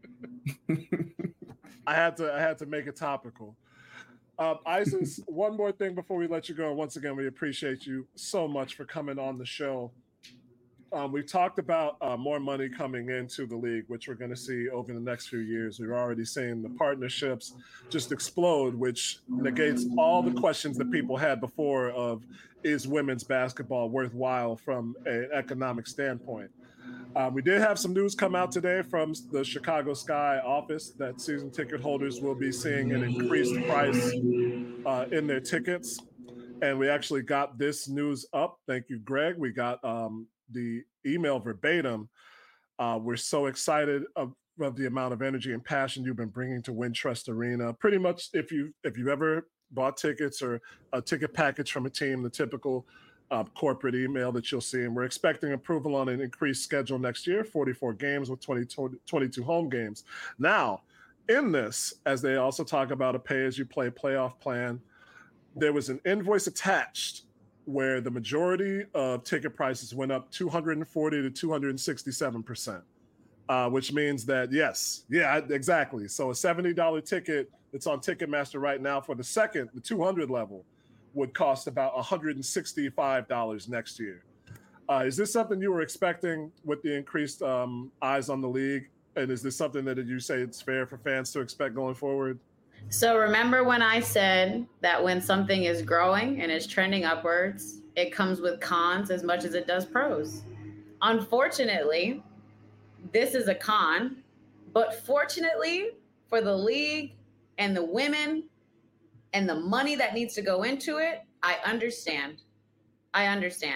I had to make it topical. Isis, one more thing before we let you go. Once again, we appreciate you so much for coming on the show. We've talked about more money coming into the league, which we're going to see over the next few years. We're already seeing the partnerships just explode, which negates all the questions that people had before of, is women's basketball worthwhile from an economic standpoint? We did have some news come out today from the Chicago Sky office that season ticket holders will be seeing an increased price in their tickets. And we actually got this news up. Thank you, Greg. We got the email verbatim. We're so excited of the amount of energy and passion you've been bringing to Wintrust Arena. Pretty much, if you've ever bought tickets or a ticket package from a team, the typical corporate email that you'll see. And we're expecting approval on an increased schedule next year, 44 games with 22 home games. Now, in this, as they also talk about a pay-as-you-play playoff plan, there was an invoice attached where the majority of ticket prices went up 240 to 267%, which means that, exactly. So a $70 ticket that's on Ticketmaster right now for the 200 level, would cost about $165 next year. Is this something you were expecting with the increased eyes on the league? And is this something that you say it's fair for fans to expect going forward? So remember when I said that when something is growing and is trending upwards, it comes with cons as much as it does pros. Unfortunately, this is a con, but fortunately for the league and the women and the money that needs to go into it, I understand. I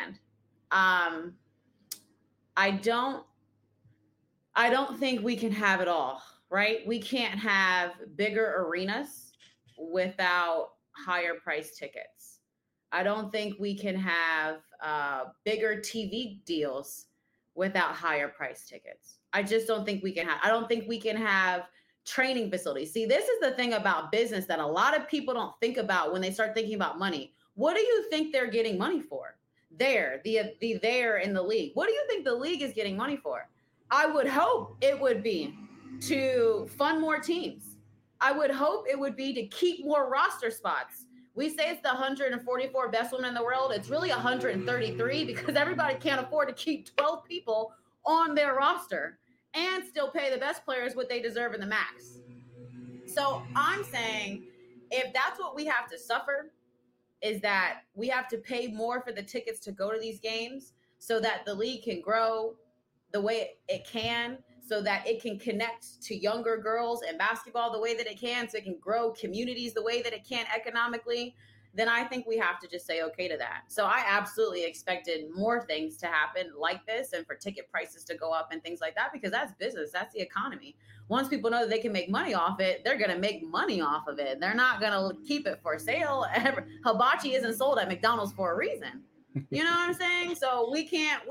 don't think we can have it all, right? We can't have bigger arenas without higher price tickets. I don't think we can have bigger TV deals without higher price tickets. I just don't think we can have. I don't think we can have training facilities. See, this is the thing about business that a lot of people don't think about when they start thinking about money. What do you think they're getting money for? There in the league. What do you think the league is getting money for? I would hope it would be to fund more teams. I would hope it would be to keep more roster spots. We say it's the 144 best women in the world. It's really 133 because everybody can't afford to keep 12 people on their roster and still pay the best players what they deserve in the max. So I'm saying if that's what we have to suffer, is that we have to pay more for the tickets to go to these games so that the league can grow the way it can, so that it can connect to younger girls and basketball the way that it can, so it can grow communities the way that it can economically, then I think we have to just say okay to that. So I absolutely expected more things to happen like this and for ticket prices to go up and things like that, because that's business. That's the economy. Once people know that they can make money off it, they're going to make money off of it. They're not going to keep it for sale. Hibachi isn't sold at McDonald's for a reason. You know what I'm saying? So we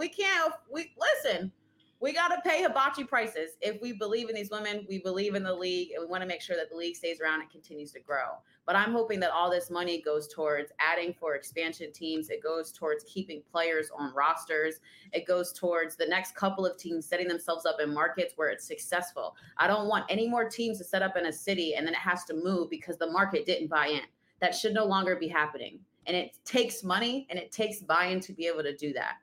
listen. We got to pay hibachi prices. If we believe in these women, we believe in the league, and we want to make sure that the league stays around and continues to grow. But I'm hoping that all this money goes towards adding for expansion teams. It goes towards keeping players on rosters. It goes towards the next couple of teams setting themselves up in markets where it's successful. I don't want any more teams to set up in a city and then it has to move because the market didn't buy in. That should no longer be happening. And it takes money and it takes buy-in to be able to do that.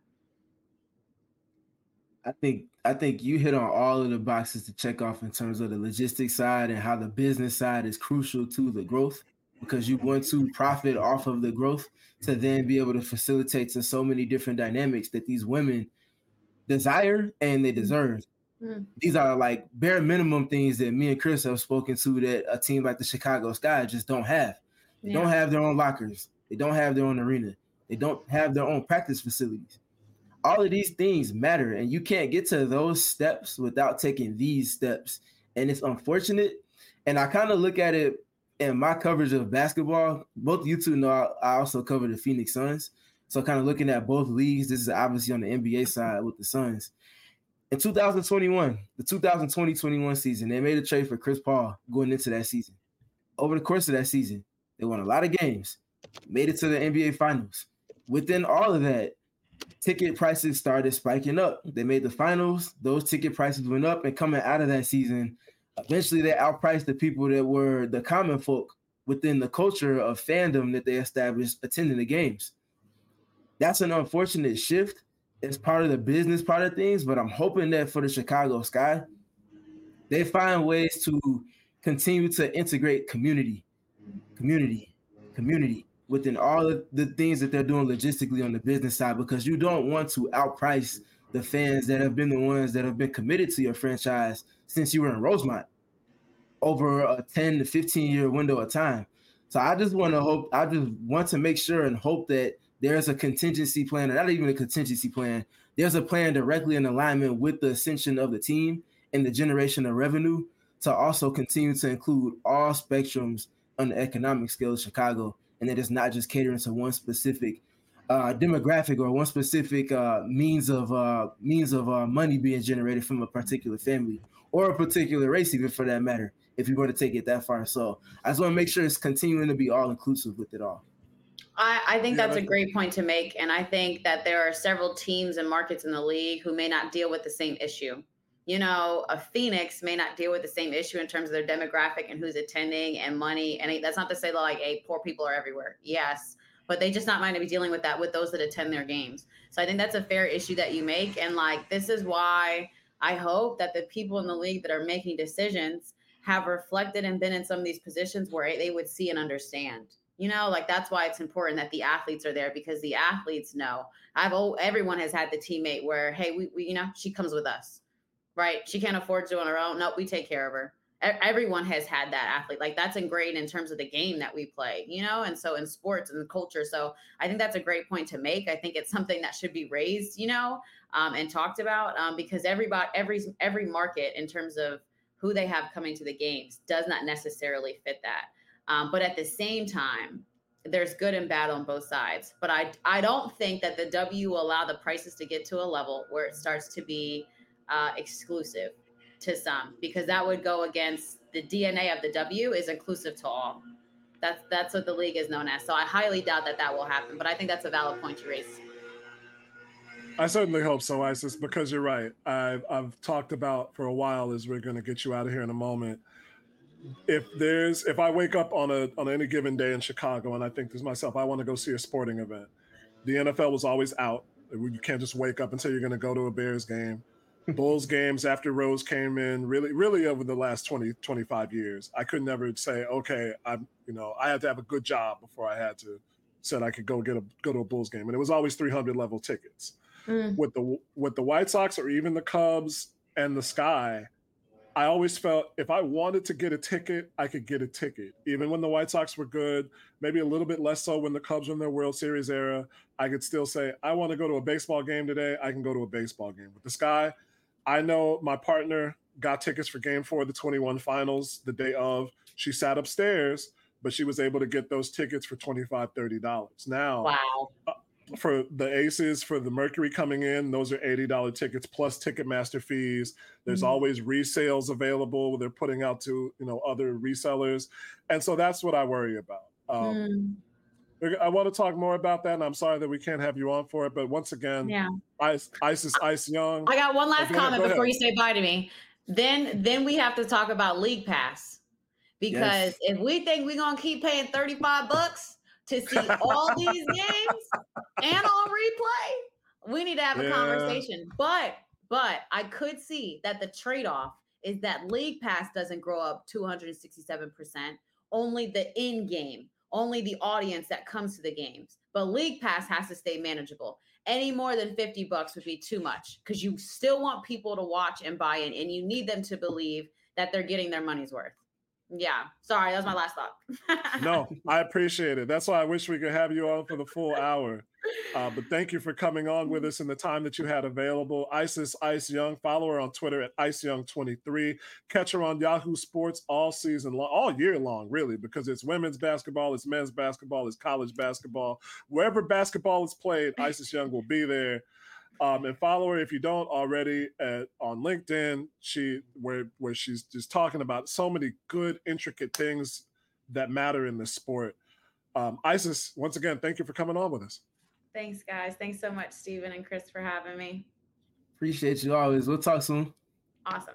I think you hit on all of the boxes to check off in terms of the logistics side and how the business side is crucial to the growth, because you want to profit off of the growth to then be able to facilitate to so many different dynamics that these women desire and they deserve. Mm-hmm. These are like bare minimum things that me and Chris have spoken to that a team like the Chicago Sky just don't have. They don't have their own lockers. They don't have their own arena. They don't have their own practice facilities. All of these things matter, and you can't get to those steps without taking these steps. And it's unfortunate. And I kind of look at it in my coverage of basketball. Both you two know I also cover the Phoenix Suns. So kind of looking at both leagues, this is obviously on the NBA side with the Suns. In 2021, the 2020-21 season, they made a trade for Chris Paul going into that season. Over the course of that season, they won a lot of games, made it to the NBA Finals. Within all of that, ticket prices started spiking up. They made the finals. Those ticket prices went up, and coming out of that season, eventually they outpriced the people that were the common folk within the culture of fandom that they established attending the games. That's an unfortunate shift. It's part of the business part of things, but I'm hoping that for the Chicago Sky, they find ways to continue to integrate community within all of the things that they're doing logistically on the business side, because you don't want to outprice the fans that have been the ones that have been committed to your franchise since you were in Rosemont over a 10 to 15 year window of time. So I just want to make sure and hope that there's a contingency plan, or not even a contingency plan. There's a plan directly in alignment with the ascension of the team and the generation of revenue to also continue to include all spectrums on the economic scale of Chicago, and that it's not just catering to one specific demographic or one specific means of money being generated from a particular family or a particular race, even for that matter, if you were to take it that far. So I just want to make sure it's continuing to be all inclusive with it all. I think that's a great point to make. And I think that there are several teams and markets in the league who may not deal with the same issue. You know, a Phoenix may not deal with the same issue in terms of their demographic and who's attending and money. And that's not to say that, like, hey, poor people are everywhere. Yes. But they just not mind to be dealing with that with those that attend their games. So I think that's a fair issue that you make. And, like, this is why I hope that the people in the league that are making decisions have reflected and been in some of these positions where they would see and understand. You know, like, that's why it's important that the athletes are there, because the athletes know. Everyone has had the teammate where, hey, we you know, she comes with us, right? She can't afford to on her own. Nope, we take care of her. Everyone has had that athlete. Like, that's ingrained in terms of the game that we play, you know, and so in sports and culture. So I think that's a great point to make. I think it's something that should be raised, you know, and talked about, because every market in terms of who they have coming to the games does not necessarily fit that. But at the same time, there's good and bad on both sides. But I don't think that the W will allow the prices to get to a level where it starts to be exclusive to some, because that would go against the DNA of the W is inclusive to all. That's what the league is known as. So I highly doubt that will happen. But I think that's a valid point you raised. I certainly hope so, Isis, because you're right. I've talked about for a while, as we're going to get you out of here in a moment. If I wake up on any given day in Chicago and I think to myself, I want to go see a sporting event, the NFL was always out. You can't just wake up and say you're going to go to a Bears game. Bulls games after Rose came in, really over the last 20, 25 years, I could never say, okay, I had to have a good job before I had to said I could go to a Bulls game. And it was always 300 level tickets. With the White Sox or even the Cubs and the Sky, I always felt if I wanted to get a ticket, I could get a ticket. Even when the White Sox were good, maybe a little bit less so when the Cubs were in their World Series era, I could still say, I want to go to a baseball game today. I can go to a baseball game. With the Sky, I know my partner got tickets for Game 4 of the 21 finals the day of. She sat upstairs, but she was able to get those tickets for $25, $30. Now, wow. For the Aces, for the Mercury coming in, those are $80 tickets plus Ticketmaster fees. There's always resales available. They're putting out to other resellers, and so that's what I worry about. I want to talk more about that, and I'm sorry that we can't have you on for it. But once again, Ice Young. I got one last comment before you say bye to me. Then we have to talk about League Pass, because if we think we're gonna keep paying $35 to see all these games and on replay, we need to have a conversation. But I could see that the trade-off is that League Pass doesn't grow up 267%, only the in-game, only the audience that comes to the games. But League Pass has to stay manageable. Any more than $50 would be too much, because you still want people to watch and buy in, and you need them to believe that they're getting their money's worth. Yeah, sorry, that was my last thought. No, I appreciate it. That's why I wish we could have you on for the full hour. But thank you for coming on with us in the time that you had available. Isis Ice Young, follow her on Twitter at IceYoung23. Catch her on Yahoo Sports all season long, all year long, really, because it's women's basketball, it's men's basketball, it's college basketball. Wherever basketball is played, Isis Young will be there. And follow her if you don't already on LinkedIn. Where she's just talking about so many good, intricate things that matter in this sport. Isis, once again, thank you for coming on with us. Thanks, guys. Thanks so much, Stephen and Chris, for having me. Appreciate you always. We'll talk soon. Awesome.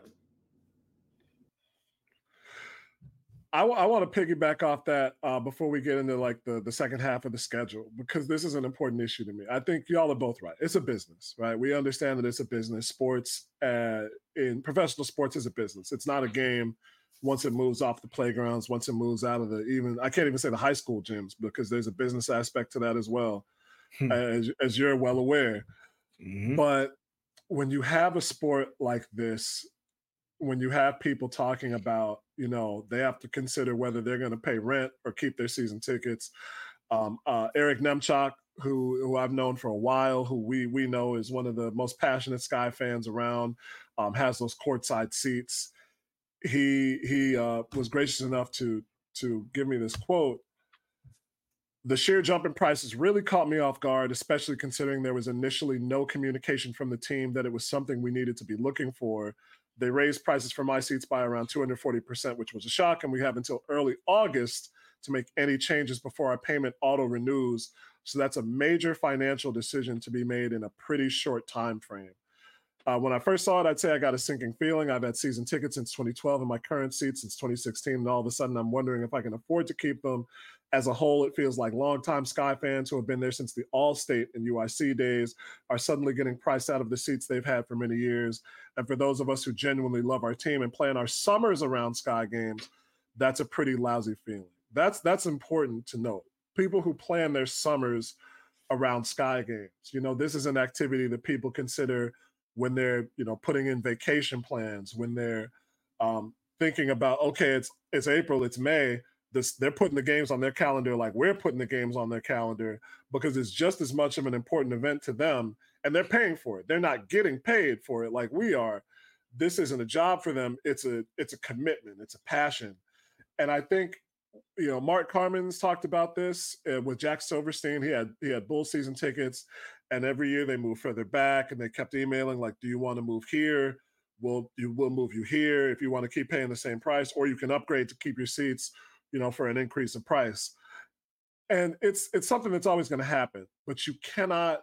I want to piggyback off that before we get into like the second half of the schedule, because this is an important issue to me. I think y'all are both right. It's a business, right? We understand that it's a business. Sports in professional sports is a business. It's not a game once it moves off the playgrounds, once it moves out of I can't even say the high school gyms, because there's a business aspect to that as well, as you're well aware. But when you have a sport like this, when you have people talking about, they have to consider whether they're going to pay rent or keep their season tickets. Eric Nemchok, who I've known for a while, who we know is one of the most passionate Sky fans around, has those courtside seats. He was gracious enough to give me this quote. The sheer jump in prices really caught me off guard, especially considering there was initially no communication from the team that it was something we needed to be looking for. They raised prices for my seats by around 240%, which was a shock, and we have until early August to make any changes before our payment auto renews. So that's a major financial decision to be made in a pretty short time frame. When I first saw it, I'd say I got a sinking feeling. I've had season tickets since 2012 and my current seats since 2016, and all of a sudden I'm wondering if I can afford to keep them. As a whole, it feels like longtime Sky fans who have been there since the All-State and UIC days are suddenly getting priced out of the seats they've had for many years. And for those of us who genuinely love our team and plan our summers around Sky games, that's a pretty lousy feeling. That's important to note. People who plan their summers around Sky games, this is an activity that people consider when they're, putting in vacation plans, when they're thinking about, okay, it's April, it's May. They're putting the games on their calendar like we're putting the games on their calendar, because it's just as much of an important event to them, and they're paying for it. They're not getting paid for it like we are. This isn't a job for them. It's a commitment. It's a passion. And I think, Mark Carmen's talked about this with Jack Silverstein. He had Bull season tickets, and every year they moved further back, and they kept emailing like, do you want to move here? We'll move you here if you want to keep paying the same price, or you can upgrade to keep your seats, for an increase in price. And it's something that's always going to happen, but you cannot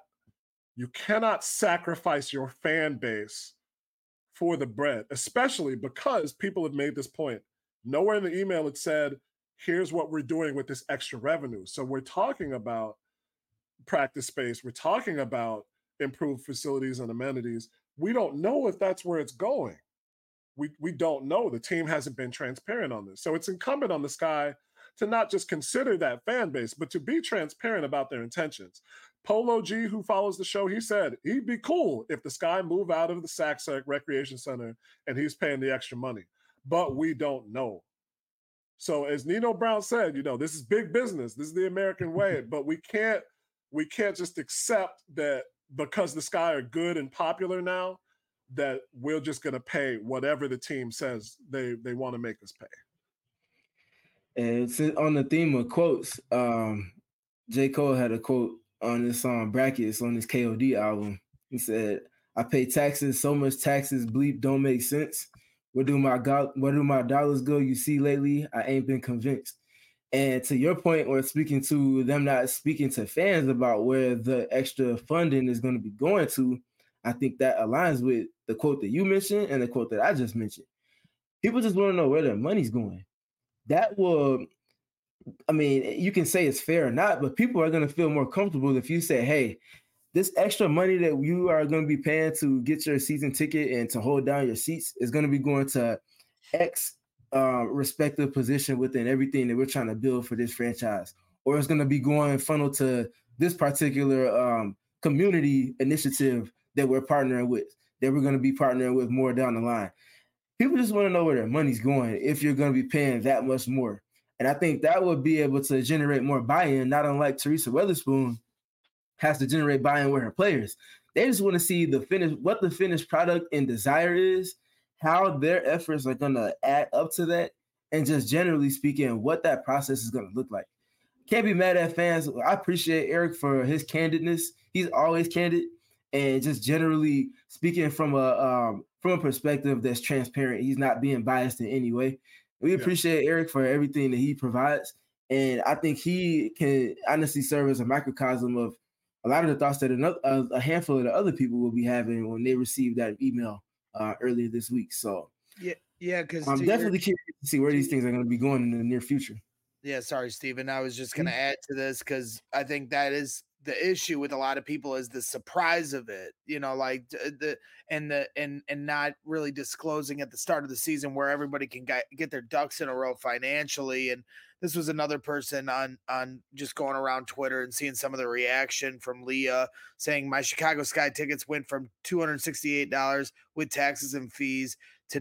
sacrifice your fan base for the bread, especially because people have made this point. Nowhere in the email it said, here's what we're doing with this extra revenue. So we're talking about practice space. We're talking about improved facilities and amenities. We don't know if that's where it's going. We don't know. The team hasn't been transparent on this. So it's incumbent on the Sky to not just consider that fan base, but to be transparent about their intentions. Polo G, who follows the show, he said he'd be cool if the Sky move out of the Sac Recreation Center and he's paying the extra money. But we don't know. So as Nino Brown said, this is big business. This is the American way. But we can't just accept that because the Sky are good and popular now, that we're just going to pay whatever the team says they want to make us pay. And on the theme of quotes, J. Cole had a quote on this song Brackets on his KOD album. He said, I pay taxes, so much taxes, bleep, don't make sense. Where do my dollars go? You see, lately, I ain't been convinced. And to your point, or speaking to them not speaking to fans about where the extra funding is going to be going to, I think that aligns with the quote that you mentioned and the quote that I just mentioned. People just want to know where their money's going. That will, you can say it's fair or not, but people are going to feel more comfortable if you say, hey, this extra money that you are going to be paying to get your season ticket and to hold down your seats is going to be going to X respective position within everything that we're trying to build for this franchise. Or it's going to be going funnel to this particular community initiative that we're partnering with, that we're going to be partnering with more down the line. People just want to know where their money's going if you're going to be paying that much more. And I think that would be able to generate more buy-in, not unlike Teresa Weatherspoon has to generate buy-in with her players. They just want to see what the finished product and desire is, how their efforts are going to add up to that, and just generally speaking, what that process is going to look like. Can't be mad at fans. I appreciate Eric for his candidness. He's always candid. And just generally speaking from a perspective that's transparent, he's not being biased in any way. We appreciate Eric for everything that he provides. And I think he can honestly serve as a microcosm of a lot of the thoughts that a handful of the other people will be having when they receive that email earlier this week. So because I'm definitely curious to see where these things are going to be going in the near future. Yeah, sorry, Steven. I was just going to add to this because I think that is the issue with a lot of people is the surprise of it, like and not really disclosing at the start of the season where everybody can get their ducks in a row financially. And this was another person on just going around Twitter and seeing some of the reaction from Leah saying my Chicago Sky tickets went from $268 with taxes and fees to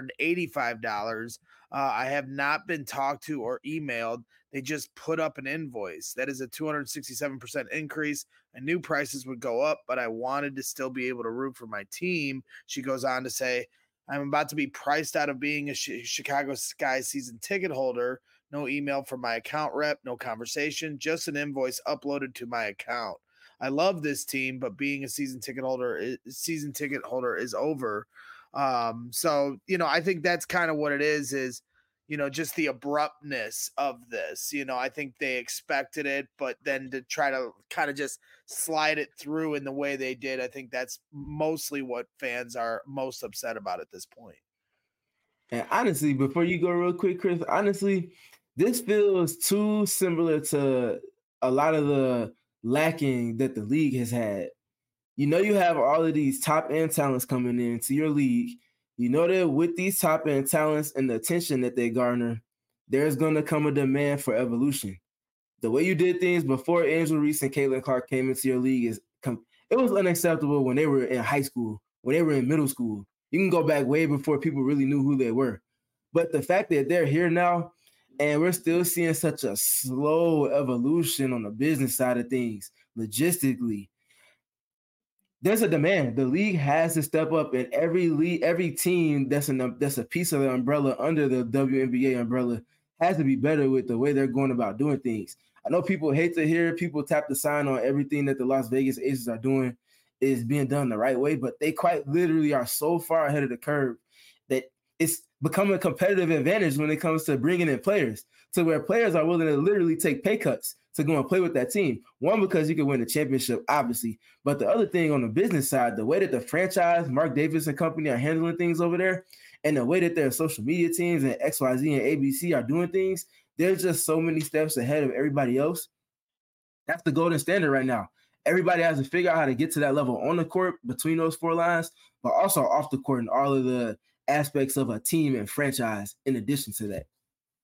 $985. I have not been talked to or emailed. They just put up an invoice. That is a 267% increase. I knew prices would go up, but I wanted to still be able to root for my team. She goes on to say, I'm about to be priced out of being a Chicago Sky season ticket holder. No email from my account rep, no conversation, just an invoice uploaded to my account. I love this team, but being a season ticket holder is over. So, I think that's kind of what it is, just the abruptness of this. I think they expected it, but then to try to kind of just slide it through in the way they did, I think that's mostly what fans are most upset about at this point. And honestly, before you go real quick, Chris, honestly, this feels too similar to a lot of the lacking that the league has had. You have all of these top-end talents coming into your league. That with these top-end talents and the attention that they garner, there's going to come a demand for evolution. The way you did things before Angel Reese and Caitlin Clark came into your league it was unacceptable when they were in high school, when they were in middle school. You can go back way before people really knew who they were. But the fact that they're here now and we're still seeing such a slow evolution on the business side of things, logistically, there's a demand. The league has to step up, and every team that's a piece of the umbrella under the WNBA umbrella has to be better with the way they're going about doing things. I know people hate to hear people tap the sign on everything that the Las Vegas Aces are doing is being done the right way, but they quite literally are so far ahead of the curve that it's becoming a competitive advantage when it comes to bringing in players, to where players are willing to literally take pay cuts to go and play with that team. One, because you can win the championship, obviously. But the other thing on the business side, the way that the franchise, Mark Davis and company are handling things over there, and the way that their social media teams and XYZ and ABC are doing things, there's just so many steps ahead of everybody else. That's the golden standard right now. Everybody has to figure out how to get to that level on the court between those four lines, but also off the court and all of the aspects of a team and franchise in addition to that.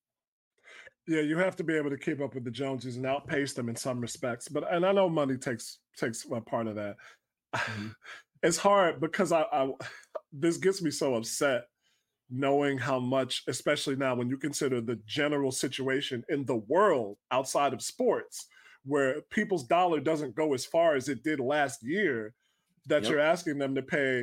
Yeah, you have to be able to keep up with the Joneses and outpace them in some respects. And I know money takes a part of that. Mm-hmm. It's hard because this gets me so upset knowing how much, especially now when you consider the general situation in the world outside of sports, where people's dollar doesn't go as far as it did last year, that You're asking them to pay,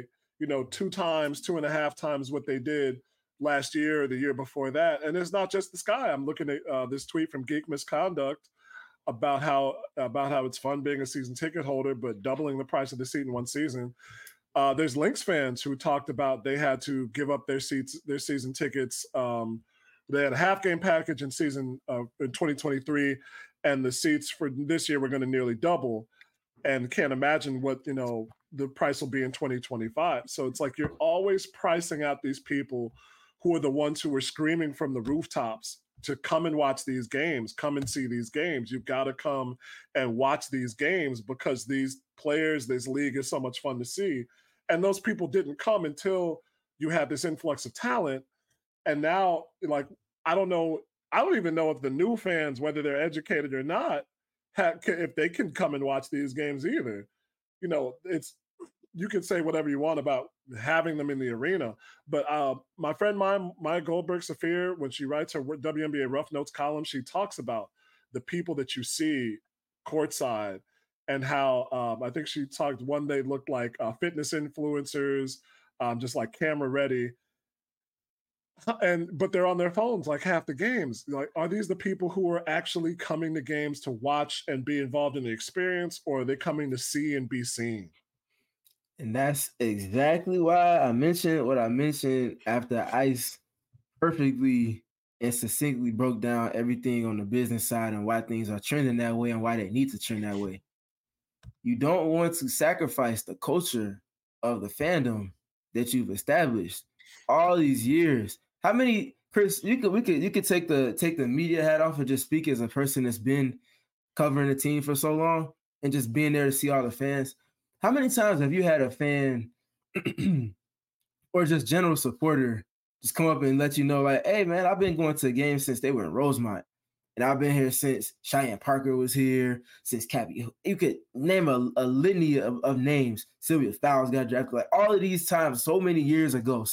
2.5 times what they did last year or the year before that. And it's not just the Sky. I'm looking at this tweet from Geek Misconduct about how it's fun being a season ticket holder, but doubling the price of the seat in one season. There's Lynx fans who talked about they had to give up their season tickets. They had a half game package in 2023, and the seats for this year were going to nearly double, and can't imagine what the price will be in 2025. So it's like you're always pricing out these people who are the ones who are screaming from the rooftops to come and watch these games, come and see these games. You've got to come and watch these games because these players, this league is so much fun to see. And those people didn't come until you had this influx of talent. And now, I don't even know if the new fans, whether they're educated or not, if they can come and watch these games either. You can say whatever you want about having them in the arena, but my friend Maya Goldberg-Safir, when she writes her WNBA Rough Notes column, she talks about the people that you see courtside and how I think she talked one they looked like fitness influencers, just like camera ready, but they're on their phones like half the games. Like, are these the people who are actually coming to games to watch and be involved in the experience, or are they coming to see and be seen? And that's exactly why I mentioned what I mentioned after Ice perfectly and succinctly broke down everything on the business side and why things are trending that way and why they need to trend that way. You don't want to sacrifice the culture of the fandom that you've established all these years. How many, Chris, you could take the media hat off and just speak as a person that's been covering the team for so long. and just being there to see all the fans. How many times have you had a fan or just general supporter just come up and let you know, like, hey, man, I've been going to games since they were in Rosemont. And I've been here since Cheyenne Parker was here, since Cappy. You could name a litany of names. Sylvia Fowles got drafted. Like all of these times, so many years ago,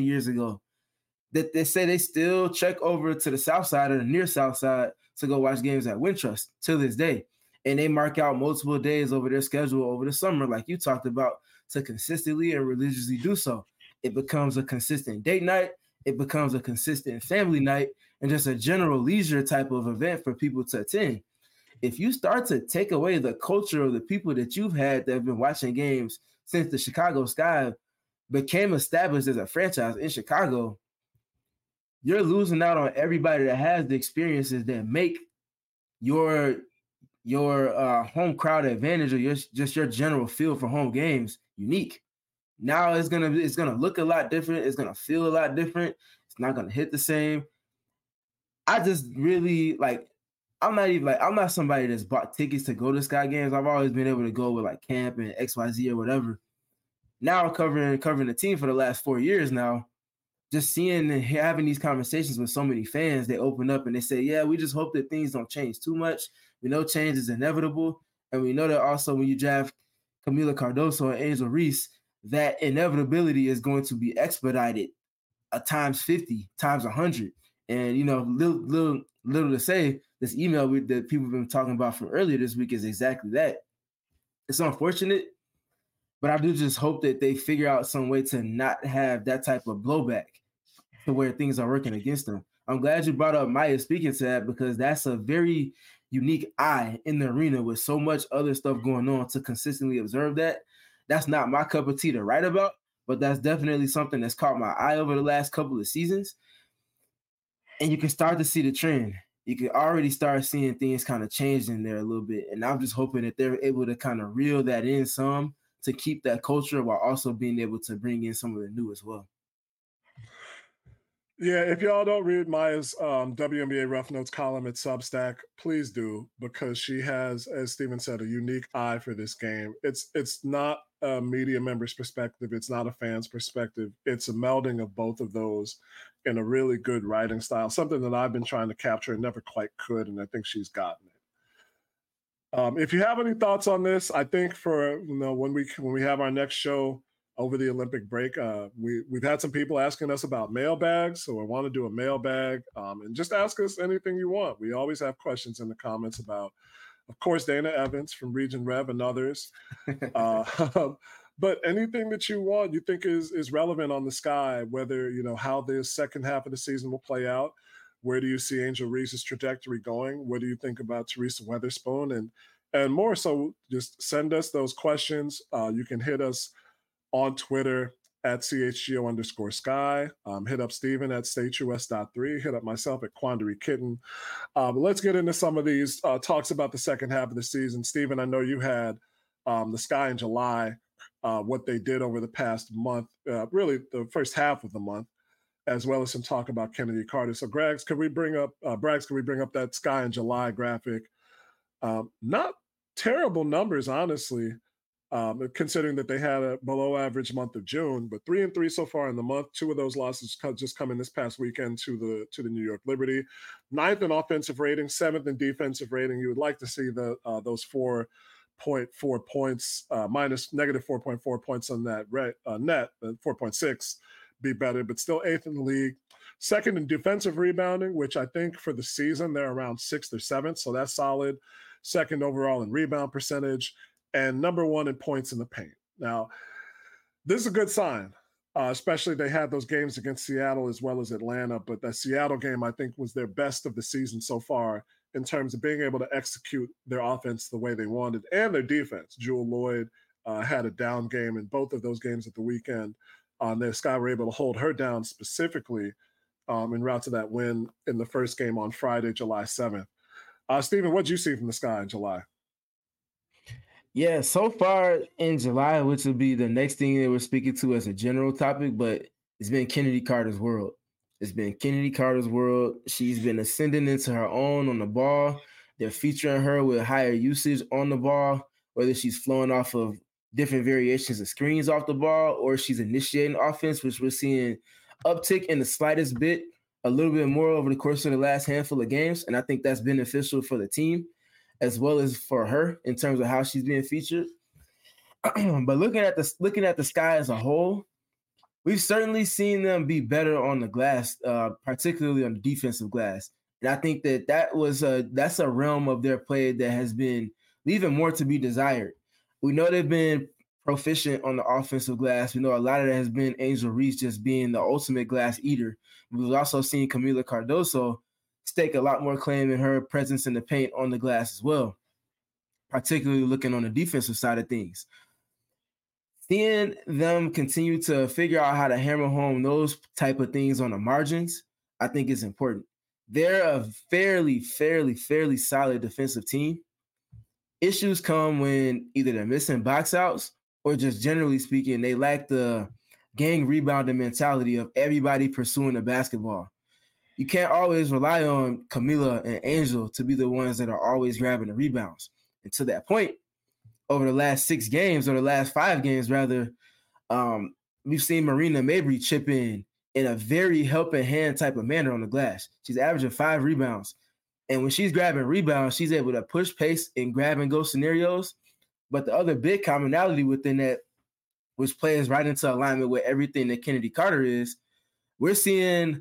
that they say they still check over to the south side or the near south side to go watch games at Wintrust to this day. And they mark out multiple days over their schedule over the summer, like you talked about, to consistently and religiously do so. It becomes a consistent date night. It becomes a consistent family night and just a general leisure type of event for people to attend. If you start to take away the culture of the people that you've had that have been watching games since the Chicago Sky became established as a franchise in Chicago, you're losing out on everybody that has the experiences that make your home crowd advantage or your general feel for home games unique. Now it's gonna look a lot different. It's gonna feel a lot different. It's not gonna hit the same. I just really I'm not somebody that's bought tickets to go to Sky games. I've always been able to go with like camp and XYZ or whatever. Now covering the team for the last 4 years now, just seeing and having these conversations with so many fans, they open up and they say, yeah, we just hope that things don't change too much. We know change is inevitable. And we know that also when you draft Camila Cardoso and Angel Reese, that inevitability is going to be expedited times 50, times 100. And, little to say, this email that people have been talking about from earlier this week is exactly that. It's unfortunate, but I do just hope that they figure out some way to not have that type of blowback to where things are working against them. I'm glad you brought up Maya speaking to that because that's a very unique eye in the arena with so much other stuff going on to consistently observe that. That's not my cup of tea to write about, but that's definitely something that's caught my eye over the last couple of seasons. And you can start to see the trend. You can already start seeing things kind of change in there a little bit. And I'm just hoping that they're able to kind of reel that in some to keep that culture while also being able to bring in some of the new as well. Yeah, if y'all don't read Maya's WNBA Rough Notes column at Substack, please do, because she has, as Steven said, a unique eye for this game. It's not a media member's perspective. It's not a fan's perspective. It's a melding of both of those in a really good writing style, something that I've been trying to capture and never quite could, and I think she's gotten it. If you have any thoughts on this, I think for when we have our next show over the Olympic break, we've had some people asking us about mailbags, so I want to do a mailbag and just ask us anything you want. We always have questions in the comments about, of course, Dana Evans from Region Rev and others, but anything that you want, you think is relevant on the Sky, whether how the second half of the season will play out. Where do you see Angel Reese's trajectory going? What do you think about Teresa Weatherspoon? And more so, just send us those questions. You can hit us on Twitter at CHGO_Sky. Hit up Steven at StateUS.3. Hit up myself at Quandary Kitten. Let's get into some of these talks about the second half of the season. Steven, I know you had the Sky in July, what they did over the past month, really the first half of the month, as well as some talk about Kennedy Carter. So, Braggs, could we bring up that Sky in July graphic? Not terrible numbers, honestly. Considering that they had a below average month of June, but 3-3 so far in the month. 2 of those losses just coming this past weekend to the New York Liberty. 9th in offensive rating, 7th in defensive rating. You would like to see those 4.4 points minus negative 4.4 points on that net, 4.6 be better, but still 8th in the league. 2nd in defensive rebounding, which I think for the season they're around 6th or 7th, so that's solid. 2nd overall in rebound percentage. And number 1 in points in the paint. Now, this is a good sign, especially they had those games against Seattle as well as Atlanta. But that Seattle game, I think, was their best of the season so far in terms of being able to execute their offense the way they wanted and their defense. Jewel Lloyd had a down game in both of those games at the weekend. The Sky were able to hold her down specifically en route to that win in the first game on Friday, July 7th. Steven, what did you see from the Sky in July? Yeah, so far in July, which will be the next thing that we're speaking to as a general topic, but it's been Kennedy Carter's world. It's been Kennedy Carter's world. She's been ascending into her own on the ball. They're featuring her with higher usage on the ball. whether she's flowing off of different variations of screens off the ball or she's initiating offense, which we're seeing uptick in the slightest bit, a little bit more over the course of the last handful of games. And I think that's beneficial for the team as well as for her in terms of how she's being featured. But looking at the Sky as a whole, we've certainly seen them be better on the glass, particularly on the defensive glass. And I think that's a realm of their play that has been leaving more to be desired. We know they've been proficient on the offensive glass. We know a lot of that has been Angel Reese just being the ultimate glass eater. We've also seen Kamilla Cardoso stake a lot more claim in her presence in the paint on the glass as well, particularly looking on the defensive side of things. Seeing them continue to figure out how to hammer home those type of things on the margins, I think is important. They're a fairly solid defensive team. Issues come when either they're missing box outs or just generally speaking, they lack the gang rebounding mentality of everybody pursuing the basketball. You can't always rely on Kamilla and Angel to be the ones that are always grabbing the rebounds. And to that point, over the last 6 games, or the last 5 games rather, we've seen Marina Mabrey chip in a very helping hand type of manner on the glass. She's averaging 5 rebounds. And when she's grabbing rebounds, she's able to push pace in grab and go scenarios. But the other big commonality within that, which plays right into alignment with everything that Kennedy Carter is, we're seeing,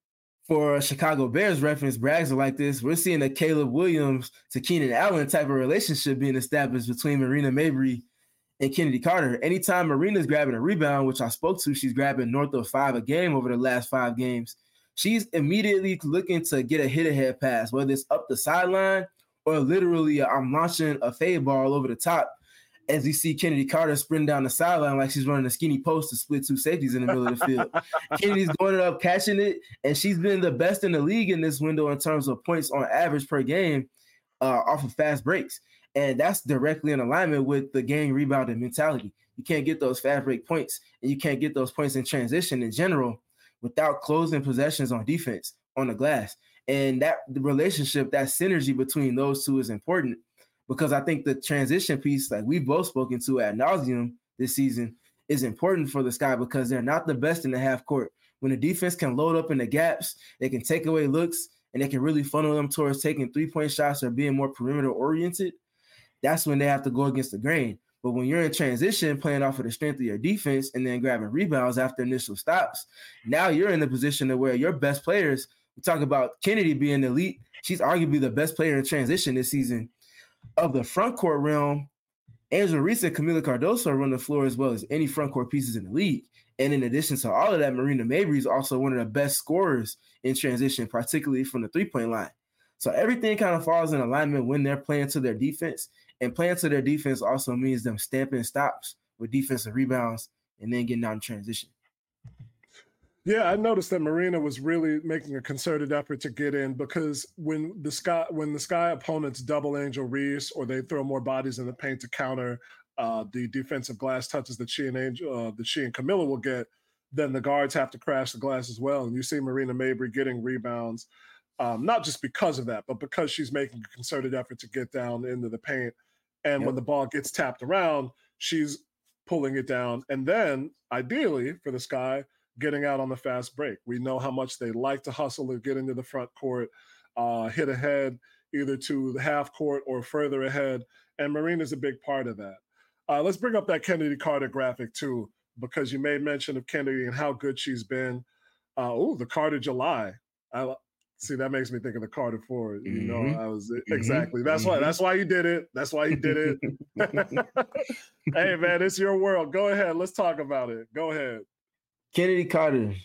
for Chicago Bears reference, brags are like this, we're seeing a Caleb Williams to Keenan Allen type of relationship being established between Marina Mabrey and Kennedy Carter. Anytime Marina's grabbing a rebound, which I spoke to, she's grabbing north of 5 a game over the last 5 games. She's immediately looking to get a hit-ahead pass, whether it's up the sideline or literally I'm launching a fade ball over the top as you see Kennedy Carter sprint down the sideline like she's running a skinny post to split 2 safeties in the middle of the field. Kennedy's going up, catching it, and she's been the best in the league in this window in terms of points on average per game off of fast breaks. And that's directly in alignment with the gang rebounding mentality. You can't get those fast break points, and you can't get those points in transition in general without closing possessions on defense on the glass. And that the relationship, that synergy between those two is important, because I think the transition piece, like we've both spoken to ad nauseum this season, is important for the Sky because they're not the best in the half court. When the defense can load up in the gaps, they can take away looks, and they can really funnel them towards taking 3-point shots or being more perimeter oriented. That's when they have to go against the grain. But when you're in transition, playing off of the strength of your defense and then grabbing rebounds after initial stops, now you're in the position to where your best players, we talk about Kennedy being elite. She's arguably the best player in transition this season. Of the front court realm, Angel Reese and Kamilla Cardoso run the floor as well as any front court pieces in the league. And in addition to all of that, Marina Mabrey is also one of the best scorers in transition, particularly from the 3-point line. So everything kind of falls in alignment when they're playing to their defense. And playing to their defense also means them stamping stops with defensive rebounds and then getting out in transition. Yeah, I noticed that Marina was really making a concerted effort to get in, because when the Sky opponents double Angel Reese or they throw more bodies in the paint to counter the defensive glass touches that she and Kamilla will get, then the guards have to crash the glass as well. And you see Marina Mabrey getting rebounds, not just because of that, but because she's making a concerted effort to get down into the paint. And when the ball gets tapped around, she's pulling it down. And then, ideally, for the Sky, getting out on the fast break. We know how much they like to hustle and get into the front court, hit ahead, either to the half court or further ahead. And Marina's a big part of that. Let's bring up that Kennedy Carter graphic, too, because you made mention of Kennedy and how good she's been. The Carter July. See, that makes me think of the Carter Ford. You know, I was exactly. That's why you did it. That's why you did it. Hey, man, it's your world. Go ahead. Let's talk about it. Go ahead. Kennedy Carter.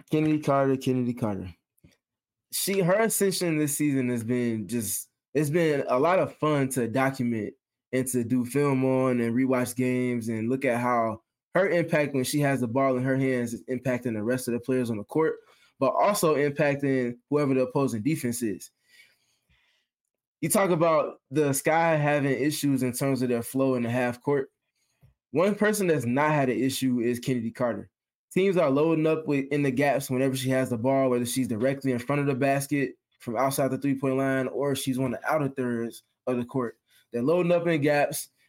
Her ascension this season has been it's been a lot of fun to document and to do film on and rewatch games and look at how her impact when she has the ball in her hands is impacting the rest of the players on the court, but also impacting whoever the opposing defense is. You talk about the Sky having issues in terms of their flow in the half court. One person that's not had an issue is Kennedy Carter. Teams are loading up in the gaps whenever she has the ball, whether she's directly in front of the basket from outside the 3-point line or she's on the outer thirds of the court. They're loading up in gaps.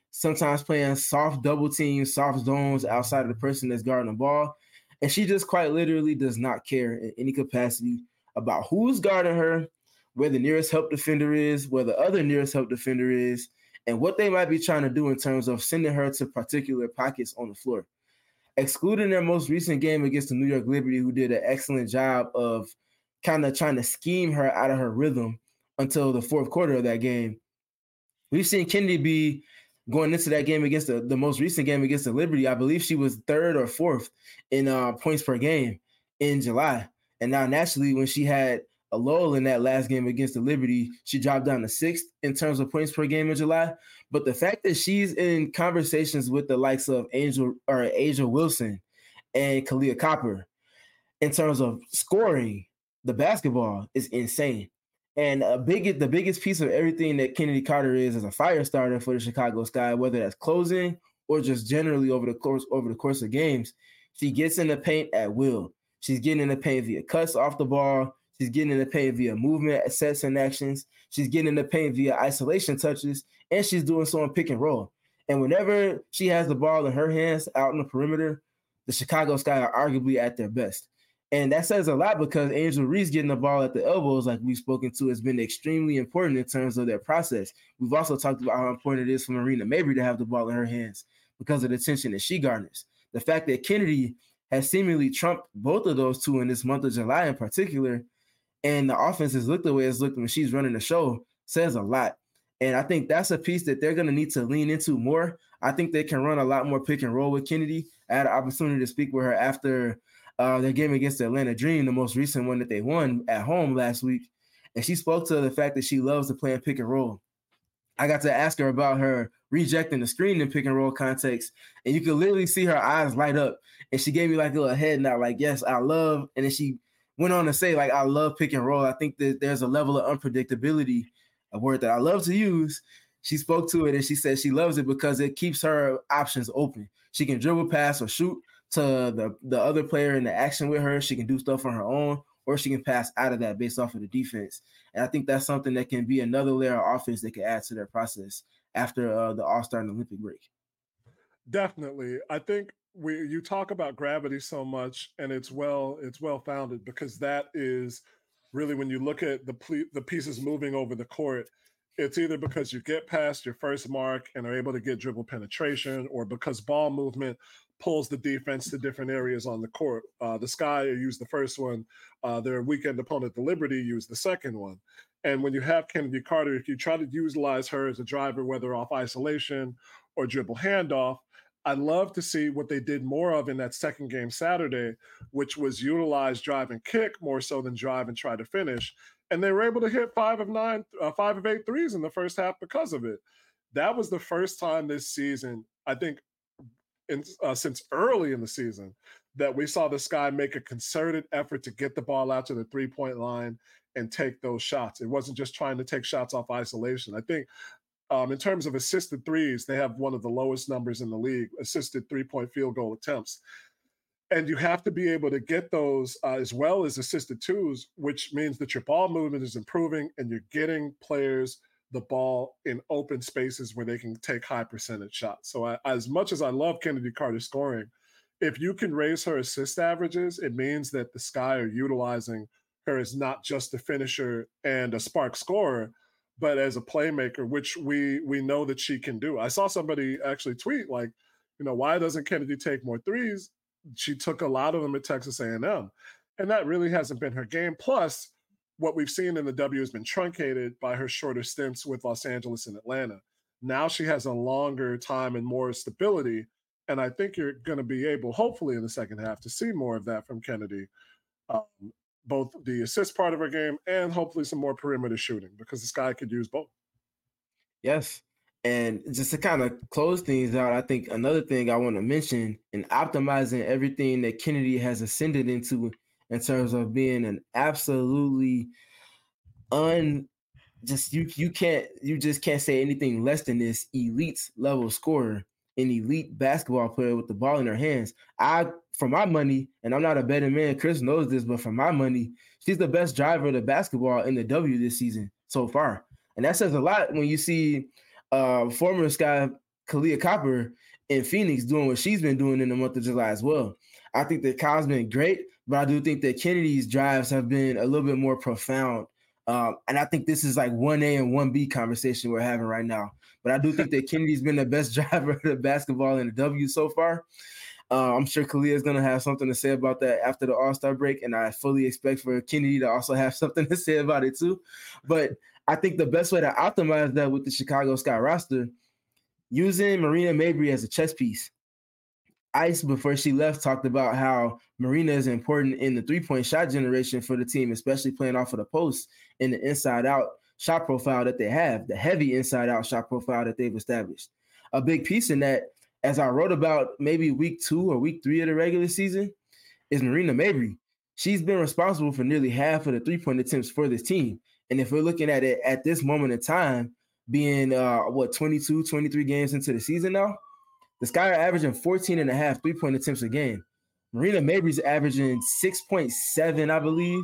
sometimes playing soft double teams, soft zones outside of the person that's guarding the ball. And she just quite literally does not care in any capacity about who's guarding her, where the nearest help defender is, where the other nearest help defender is, and what they might be trying to do in terms of sending her to particular pockets on the floor. Excluding their most recent game against the New York Liberty, who did an excellent job of kind of trying to scheme her out of her rhythm until the fourth quarter of that game, we've seen Kennedy be going into that game against the most recent game against the Liberty. I believe she was third or fourth in points per game in July. And now naturally, when she had a lull in that last game against the Liberty, she dropped down to sixth in terms of points per game in July. But the fact that she's in conversations with the likes of Asia Wilson and Kalia Copper in terms of scoring the basketball is insane. And the biggest piece of everything that Kennedy Carter is as a fire starter for the Chicago Sky, whether that's closing or just generally over the course of games, she gets in the paint at will. She's getting in the paint via cuts off the ball. She's getting in the paint via movement, sets, and actions. She's getting in the paint via isolation touches, and she's doing so in pick and roll. And whenever she has the ball in her hands out in the perimeter, the Chicago Sky are arguably at their best. And that says a lot because Angel Reese getting the ball at the elbows, like we've spoken to, has been extremely important in terms of their process. We've also talked about how important it is for Marina Mabrey to have the ball in her hands because of the tension that she garners. The fact that Kennedy has seemingly trumped both of those two in this month of July in particular, and the offense has looked the way it's looked when she's running the show, says a lot. And I think that's a piece that they're going to need to lean into more. I think they can run a lot more pick and roll with Kennedy. I had an opportunity to speak with her after their game against the Atlanta Dream, the most recent one that they won at home last week. And she spoke to the fact that she loves to play in pick and roll. I got to ask her about her rejecting the screen in pick and roll context, and you could literally see her eyes light up. And she gave me like a little head nod, like, yes, I love. And then she went on to say, like, I love pick and roll. I think that there's a level of unpredictability, a word that I love to use. She spoke to it and she said she loves it because it keeps her options open. She can dribble, pass, or shoot to the other player in the action with her. She can do stuff on her own, or she can pass out of that based off of the defense. And I think that's something that can be another layer of offense that can add to their process after the All-Star and Olympic break. Definitely. I think you talk about gravity so much, and it's well founded because that is really when you look at the pieces moving over the court, it's either because you get past your first mark and are able to get dribble penetration, or because ball movement pulls the defense to different areas on the court. The Sky used the first one. Their weekend opponent, the Liberty, used the second one. And when you have Kennedy Carter, if you try to utilize her as a driver, whether off isolation or dribble handoff, I'd love to see what they did more of in that second game Saturday, which was utilize drive and kick more so than drive and try to finish. And they were able to hit 5 of 8 threes in the first half because of it. That was the first time this season, I think, since early in the season, that we saw the Sky make a concerted effort to get the ball out to the three-point line and take those shots. It wasn't just trying to take shots off isolation. I think in terms of assisted threes, they have one of the lowest numbers in the league, assisted three-point field goal attempts. And you have to be able to get those as well as assisted twos, which means that your ball movement is improving and you're getting players the ball in open spaces where they can take high percentage shots. So as much as I love Kennedy Carter scoring, if you can raise her assist averages, it means that the Sky are utilizing her as not just a finisher and a spark scorer, but as a playmaker, which we know that she can do. I saw somebody actually tweet like, why doesn't Kennedy take more threes? She took a lot of them at Texas A&M, and that really hasn't been her game. Plus, what we've seen in the W has been truncated by her shorter stints with Los Angeles and Atlanta. Now she has a longer time and more stability, and I think you're going to be able, hopefully in the second half, to see more of that from Kennedy, both the assist part of her game and hopefully some more perimeter shooting, because the Sky could use both. Yes. And just to kind of close things out, I think another thing I want to mention in optimizing everything that Kennedy has ascended into in terms of being an absolutely you just can't say anything less than this elite level scorer, an elite basketball player with the ball in her hands. For my money, and I'm not a betting man, Chris knows this, but for my money, she's the best driver of the basketball in the W this season so far. And that says a lot when you see former Sky Kahleah Copper in Phoenix doing what she's been doing in the month of July as well. I think that Kyle's been great, but I do think that Kennedy's drives have been a little bit more profound. And I think this is like 1A and 1B conversation we're having right now. But I do think that Kennedy's been the best driver of the basketball in the W so far. I'm sure Kahleah is going to have something to say about that after the All-Star break, and I fully expect for Kennedy to also have something to say about it too. But I think the best way to optimize that with the Chicago Sky roster, using Marina Mabrey as a chess piece. Ice, before she left, talked about how Marina is important in the three-point shot generation for the team, especially playing off of the post and the inside-out shot profile that they have, the heavy inside-out shot profile that they've established. A big piece in that, as I wrote about maybe week 2 or week 3 of the regular season, is Marina Mabrey. She's been responsible for nearly half of the three-point attempts for this team. And if we're looking at it at this moment in time, being 22, 23 games into the season now, the Sky are averaging 14 and a half three-point attempts a game. Marina Mabrey's averaging 6.7, I believe,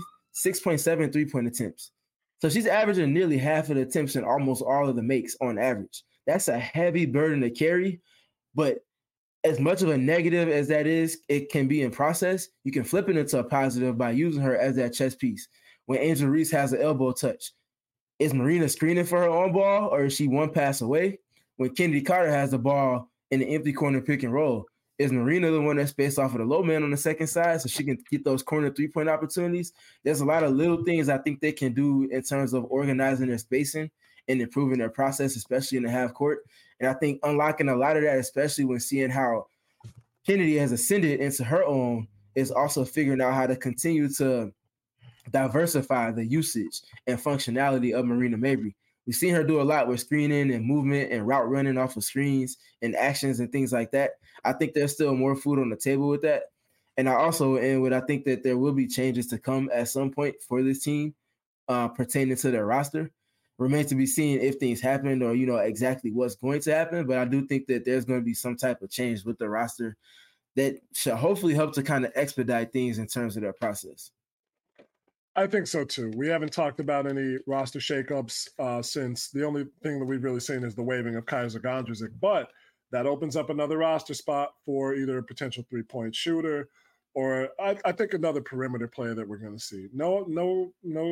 6.7 three-point attempts. So she's averaging nearly half of the attempts and almost all of the makes on average. That's a heavy burden to carry, but as much of a negative as that is, it can be in process. You can flip it into a positive by using her as that chess piece. When Angel Reese has an elbow touch, is Marina screening for her on ball, or is she one pass away? When Kennedy Carter has the ball in the empty corner pick and roll, is Marina the one that's spaced off of the low man on the second side so she can get those corner three-point opportunities? There's a lot of little things I think they can do in terms of organizing their spacing and improving their process, especially in the half court. And I think unlocking a lot of that, especially when seeing how Kennedy has ascended into her own, is also figuring out how to continue to diversify the usage and functionality of Marina Mabrey. We've seen her do a lot with screening and movement and route running off of screens and actions and things like that. I think there's still more food on the table with that. And I think that there will be changes to come at some point for this team pertaining to their roster. Remains to be seen if things happen or, exactly what's going to happen. But I do think that there's going to be some type of change with the roster that should hopefully help to kind of expedite things in terms of their process. I think so too. We haven't talked about any roster shakeups since the only thing that we've really seen is the waiving of Kaiser Gondrzic, but that opens up another roster spot for either a potential three-point shooter or I think another perimeter player that we're going to see. No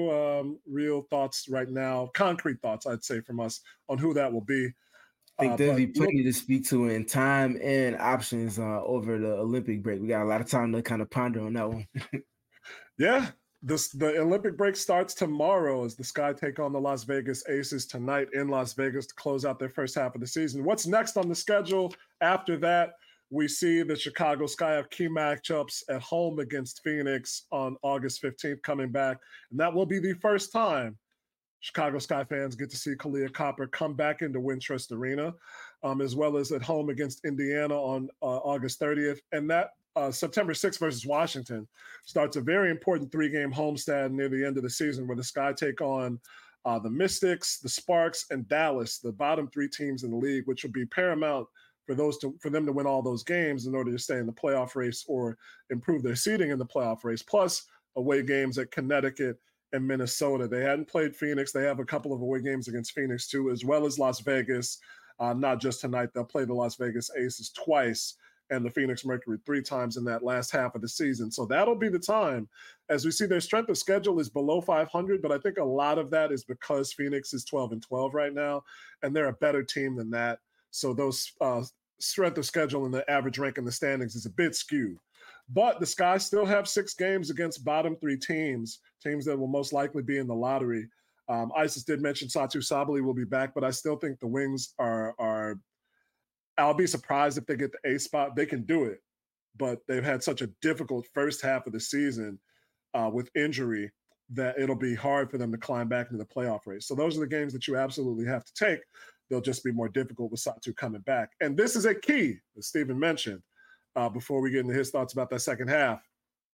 real thoughts right now, concrete thoughts, I'd say, from us on who that will be. I think there'll be plenty to speak to in time and options over the Olympic break. We got a lot of time to kind of ponder on that one. Yeah. The Olympic break starts tomorrow as the Sky take on the Las Vegas Aces tonight in Las Vegas to close out their first half of the season. What's next on the schedule? After that, we see the Chicago Sky have key matchups at home against Phoenix on August 15th coming back. And that will be the first time Chicago Sky fans get to see Kahleah Copper come back into Wintrust Arena, as well as at home against Indiana on August 30th. And that September 6th versus Washington starts a very important 3-game homestand near the end of the season where the Sky take on the Mystics, the Sparks, and Dallas, the bottom 3 teams in the league, which will be paramount for them to win all those games in order to stay in the playoff race or improve their seeding in the playoff race, plus away games at Connecticut and Minnesota. They hadn't played Phoenix. They have a couple of away games against Phoenix too, as well as Las Vegas. Not just tonight. They'll play the Las Vegas Aces twice and the Phoenix Mercury 3 times in that last half of the season. So that'll be the time. As we see, their strength of schedule is below 500, but I think a lot of that is because Phoenix is 12-12 right now, and they're a better team than that. So those strength of schedule and the average rank in the standings is a bit skewed. But the Sky still have 6 games against bottom 3 teams that will most likely be in the lottery. Isis did mention Satou Sabally will be back, but I still think the Wings are I'll be surprised if they get the A spot. They can do it, but they've had such a difficult first half of the season with injury that it'll be hard for them to climb back into the playoff race. So those are the games that you absolutely have to take. They'll just be more difficult with Satou coming back. And this is a key, as Stephen mentioned, before we get into his thoughts about that second half.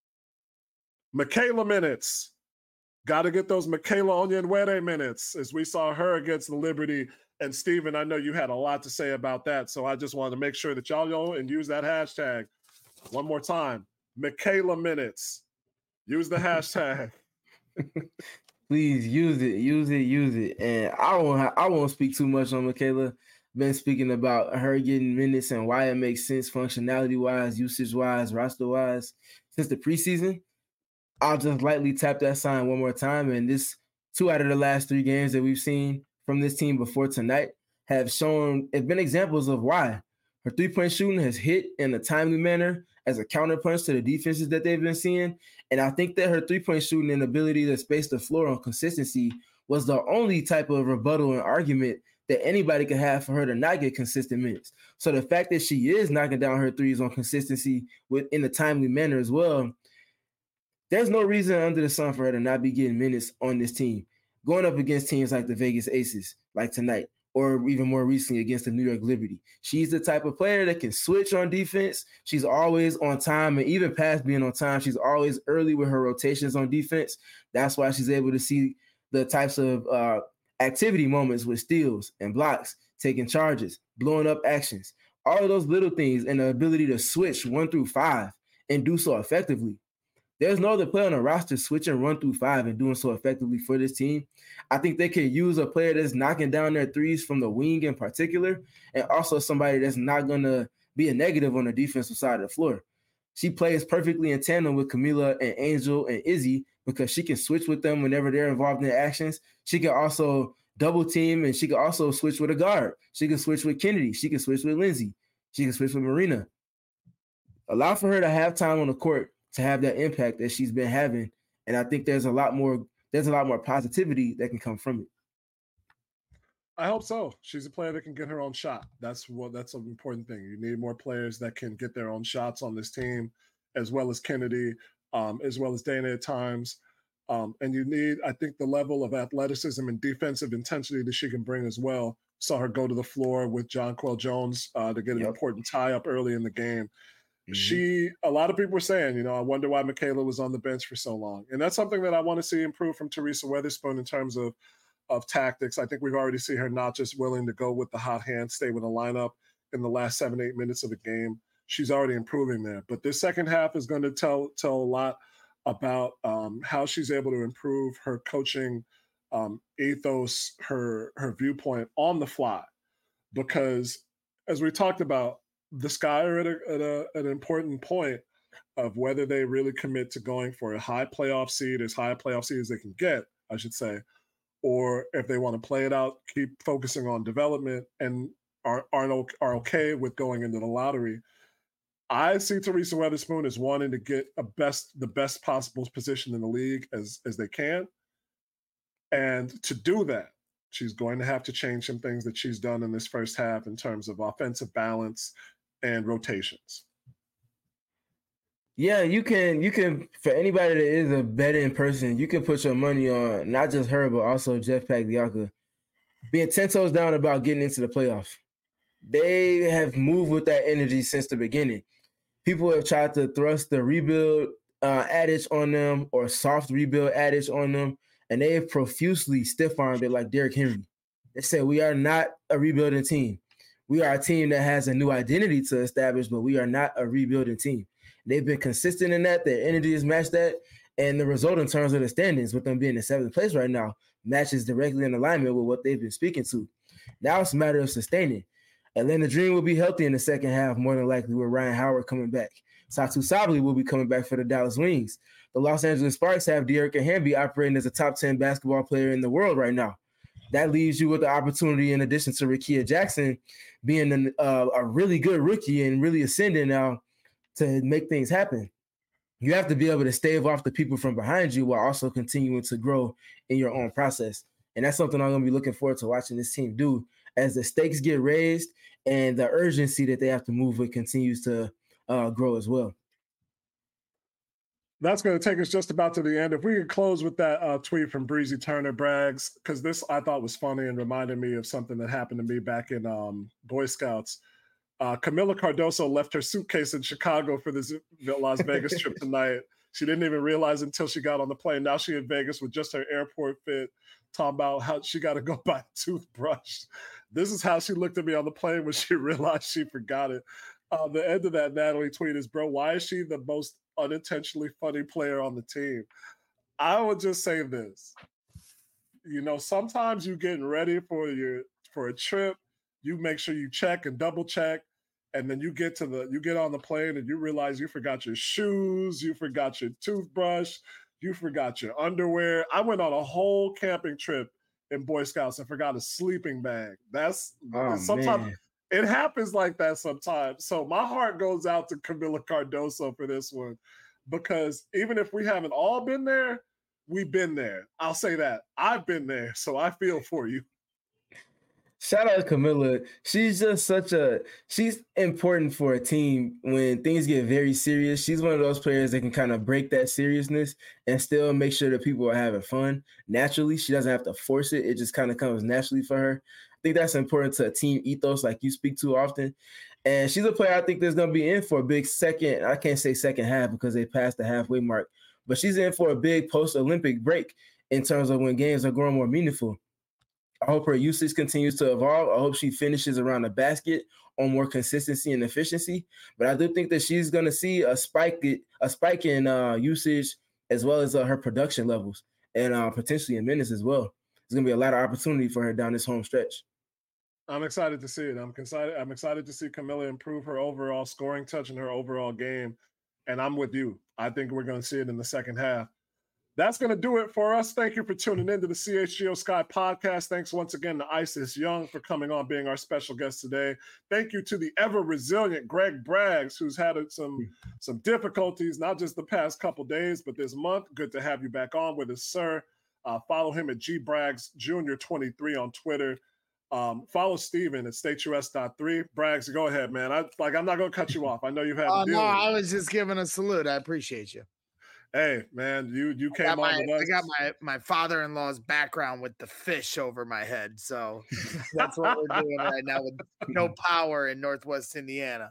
Michaela minutes. Got to get those Michaela Onyenwere minutes, as we saw her against the Liberty. And Stephen, I know you had a lot to say about that, so I just wanted to make sure that y'all know and use that hashtag one more time. Michaela minutes. Use the hashtag. Please use it. And I won't speak too much on Michaela. been speaking about her getting minutes and why it makes sense functionality-wise, usage-wise, roster-wise since the preseason. I'll just lightly tap that sign one more time. And this 2 out of the last 3 games that we've seen from this team before tonight have been examples of why. Her 3-point shooting has hit in a timely manner as a counterpunch to the defenses that they've been seeing. And I think that her 3-point shooting and ability to space the floor on consistency was the only type of rebuttal and argument that anybody could have for her to not get consistent minutes. So the fact that she is knocking down her threes on consistency in a timely manner as well, there's no reason under the sun for her to not be getting minutes on this team. Going up against teams like the Vegas Aces, like tonight, or even more recently against the New York Liberty. She's the type of player that can switch on defense. She's always on time, and even past being on time, she's always early with her rotations on defense. That's why she's able to see the types of activity moments with steals and blocks, taking charges, blowing up actions, all of those little things, and the ability to switch 1 through 5 and do so effectively. There's no other player on the roster switching 1 through 5 and doing so effectively for this team. I think they could use a player that's knocking down their threes from the wing in particular, and also somebody that's not going to be a negative on the defensive side of the floor. She plays perfectly in tandem with Camila and Angel and Izzy because she can switch with them whenever they're involved in actions. She can also double team, and she can also switch with a guard. She can switch with Kennedy. She can switch with Lindsay. She can switch with Marina. Allow for her to have time on the court to have that impact that she's been having. And I think there's a lot more positivity that can come from it. I hope so. She's a player that can get her own shot. That's an important thing. You need more players that can get their own shots on this team, as well as Kennedy, as well as Dana at times. And you need, I think, the level of athleticism and defensive intensity that she can bring as well. Saw her go to the floor with Jonquel Jones to get an important tie up early in the game. A lot of people were saying, I wonder why Michaela was on the bench for so long. And that's something that I want to see improve from Teresa Weatherspoon in terms of tactics. I think we've already seen her not just willing to go with the hot hand, stay with the lineup in the last 7-8 minutes of the game. She's already improving there. But this second half is going to tell a lot about how she's able to improve her coaching ethos, her viewpoint on the fly. Because as we talked about, the Sky are at an important point of whether they really commit to going for a high playoff seed, as high a playoff seed as they can get, I should say, or if they want to play it out, keep focusing on development, and are okay with going into the lottery. I see Teresa Weatherspoon as wanting to get the best possible position in the league as they can. And to do that, she's going to have to change some things that she's done in this first half in terms of offensive balance and rotations. Yeah, you can for anybody that is a betting person, you can put your money on not just her, but also Jeff Pagliacca being 10 toes down about getting into the playoffs. They have moved with that energy since the beginning. People have tried to thrust the rebuild adage on them or soft rebuild adage on them, and they have profusely stiff-armed it like Derrick Henry. They said, we are not a rebuilding team. We are a team that has a new identity to establish, but we are not a rebuilding team. They've been consistent in that. Their energy has matched that. And the result in terms of the standings, with them being in 7th place right now, matches directly in alignment with what they've been speaking to. Now it's a matter of sustaining. Atlanta Dream will be healthy in the second half, more than likely, with Ryan Howard coming back. Satu Sabally will be coming back for the Dallas Wings. The Los Angeles Sparks have Dearica Hamby operating as a top 10 basketball player in the world right now. That leaves you with the opportunity, in addition to Rickea Jackson being a really good rookie and really ascending now, to make things happen. You have to be able to stave off the people from behind you while also continuing to grow in your own process. And that's something I'm going to be looking forward to watching this team do as the stakes get raised and the urgency that they have to move with continues to grow as well. That's going to take us just about to the end. If we could close with that tweet from Breezy Turner Braggs, because this I thought was funny and reminded me of something that happened to me back in Boy Scouts. Camila Cardoso left her suitcase in Chicago for the Las Vegas trip tonight. She didn't even realize until she got on the plane. Now she in Vegas with just her airport fit, talking about how she got to go buy a toothbrush. This is how she looked at me on the plane when she realized she forgot it. The end of that Natalie tweet is, bro, why is she the most unintentionally funny player on the team? I would just say this. Sometimes you getting ready for a trip, you make sure you check and double check. And then you get on the plane and you realize you forgot your shoes, you forgot your toothbrush, you forgot your underwear. I went on a whole camping trip in Boy Scouts and forgot a sleeping bag. Sometimes it happens like that sometimes. So my heart goes out to Camila Cardoso for this one, because even if we haven't all been there, we've been there. I'll say that. I've been there, so I feel for you. Shout out to Camila. She's just she's important for a team when things get very serious. She's one of those players that can kind of break that seriousness and still make sure that people are having fun naturally. She doesn't have to force it. It just kind of comes naturally for her. I think that's important to a team ethos like you speak to often. And she's a player I think that's going to be in for a big second. I can't say second half because they passed the halfway mark, but she's in for a big post-Olympic break in terms of when games are growing more meaningful. I hope her usage continues to evolve. I hope she finishes around the basket on more consistency and efficiency. But I do think that she's going to see a spike in usage as well as her production levels and potentially in minutes as well. There's going to be a lot of opportunity for her down this home stretch. I'm excited to see it. I'm excited to see Camila improve her overall scoring touch and her overall game. And I'm with you. I think we're going to see it in the second half. That's going to do it for us. Thank you for tuning in to the CHGO Sky podcast. Thanks once again to Isis Young for coming on, being our special guest today. Thank you to the ever-resilient Greg Braggs, who's had some difficulties, not just the past couple days, but this month. Good to have you back on with us, sir. Follow him at gbraggs Jr. 23 on Twitter. Follow Steven at stateus.3. Braggs, go ahead, man. I'm not going to cut you off. I know you've had to deal with it. I was just giving a salute. I appreciate you. Hey, man, you came on with us. I got my father-in-law's background with the fish over my head, so that's what we're doing right now with no power in Northwest Indiana.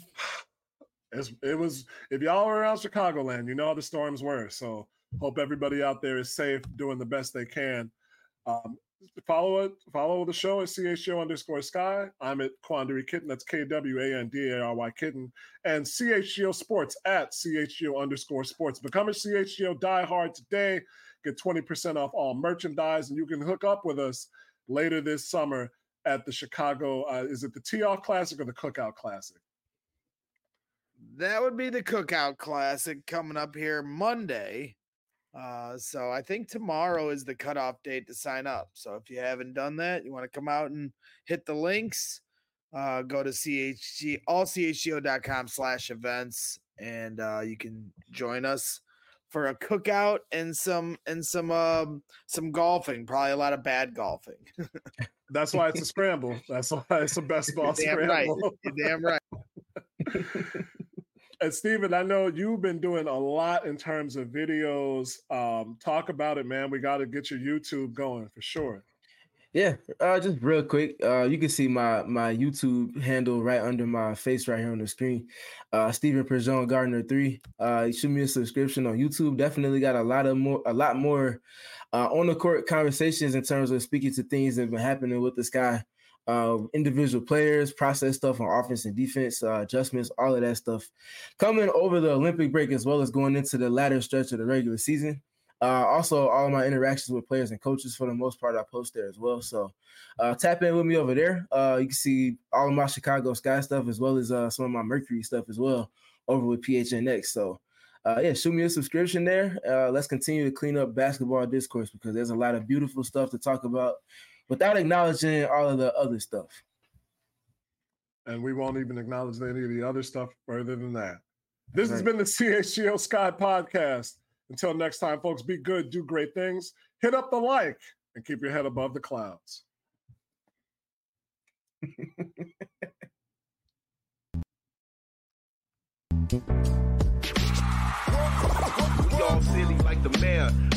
It was, if y'all were around Chicagoland, you know how the storms were. So hope everybody out there is safe, doing the best they can. Follow the show at CHGO_Sky. I'm at Quandary Kitten. That's KWANDARY Kitten. And CHGO Sports at CHGO_Sports. Become a CHGO diehard today. Get 20% off all merchandise, and you can hook up with us later this summer at the Chicago. Is it the Tee-Off Classic or the Cookout Classic? That would be the Cookout Classic coming up here Monday. So I think tomorrow is the cutoff date to sign up. So if you haven't done that, you want to come out and hit the links, go to allchgo.com/events, and you can join us for a cookout and some golfing, probably a lot of bad golfing. That's why it's a scramble. That's why it's a best ball scramble. Right. You're damn right. And Steven, I know you've been doing a lot in terms of videos. Talk about it, man. We got to get your YouTube going for sure. Yeah, just real quick. You can see my YouTube handle right under my face right here on the screen. Steven Perjon Gardner 3. Shoot me a subscription on YouTube. Definitely got a lot more on the court conversations in terms of speaking to things that have been happening with the Sky. Individual players, process stuff on offense and defense, adjustments, all of that stuff coming over the Olympic break as well as going into the latter stretch of the regular season. Also, all of my interactions with players and coaches, for the most part, I post there as well. So tap in with me over there. You can see all of my Chicago Sky stuff as well as some of my Mercury stuff as well over with PHNX. So shoot me a subscription there. Let's continue to clean up basketball discourse because there's a lot of beautiful stuff to talk about without acknowledging all of the other stuff. And we won't even acknowledge any of the other stuff further than that. This has been the CHGO Sky podcast. Until next time, folks, be good, do great things, hit up the like, and keep your head above the clouds. Y'all silly like the mayor.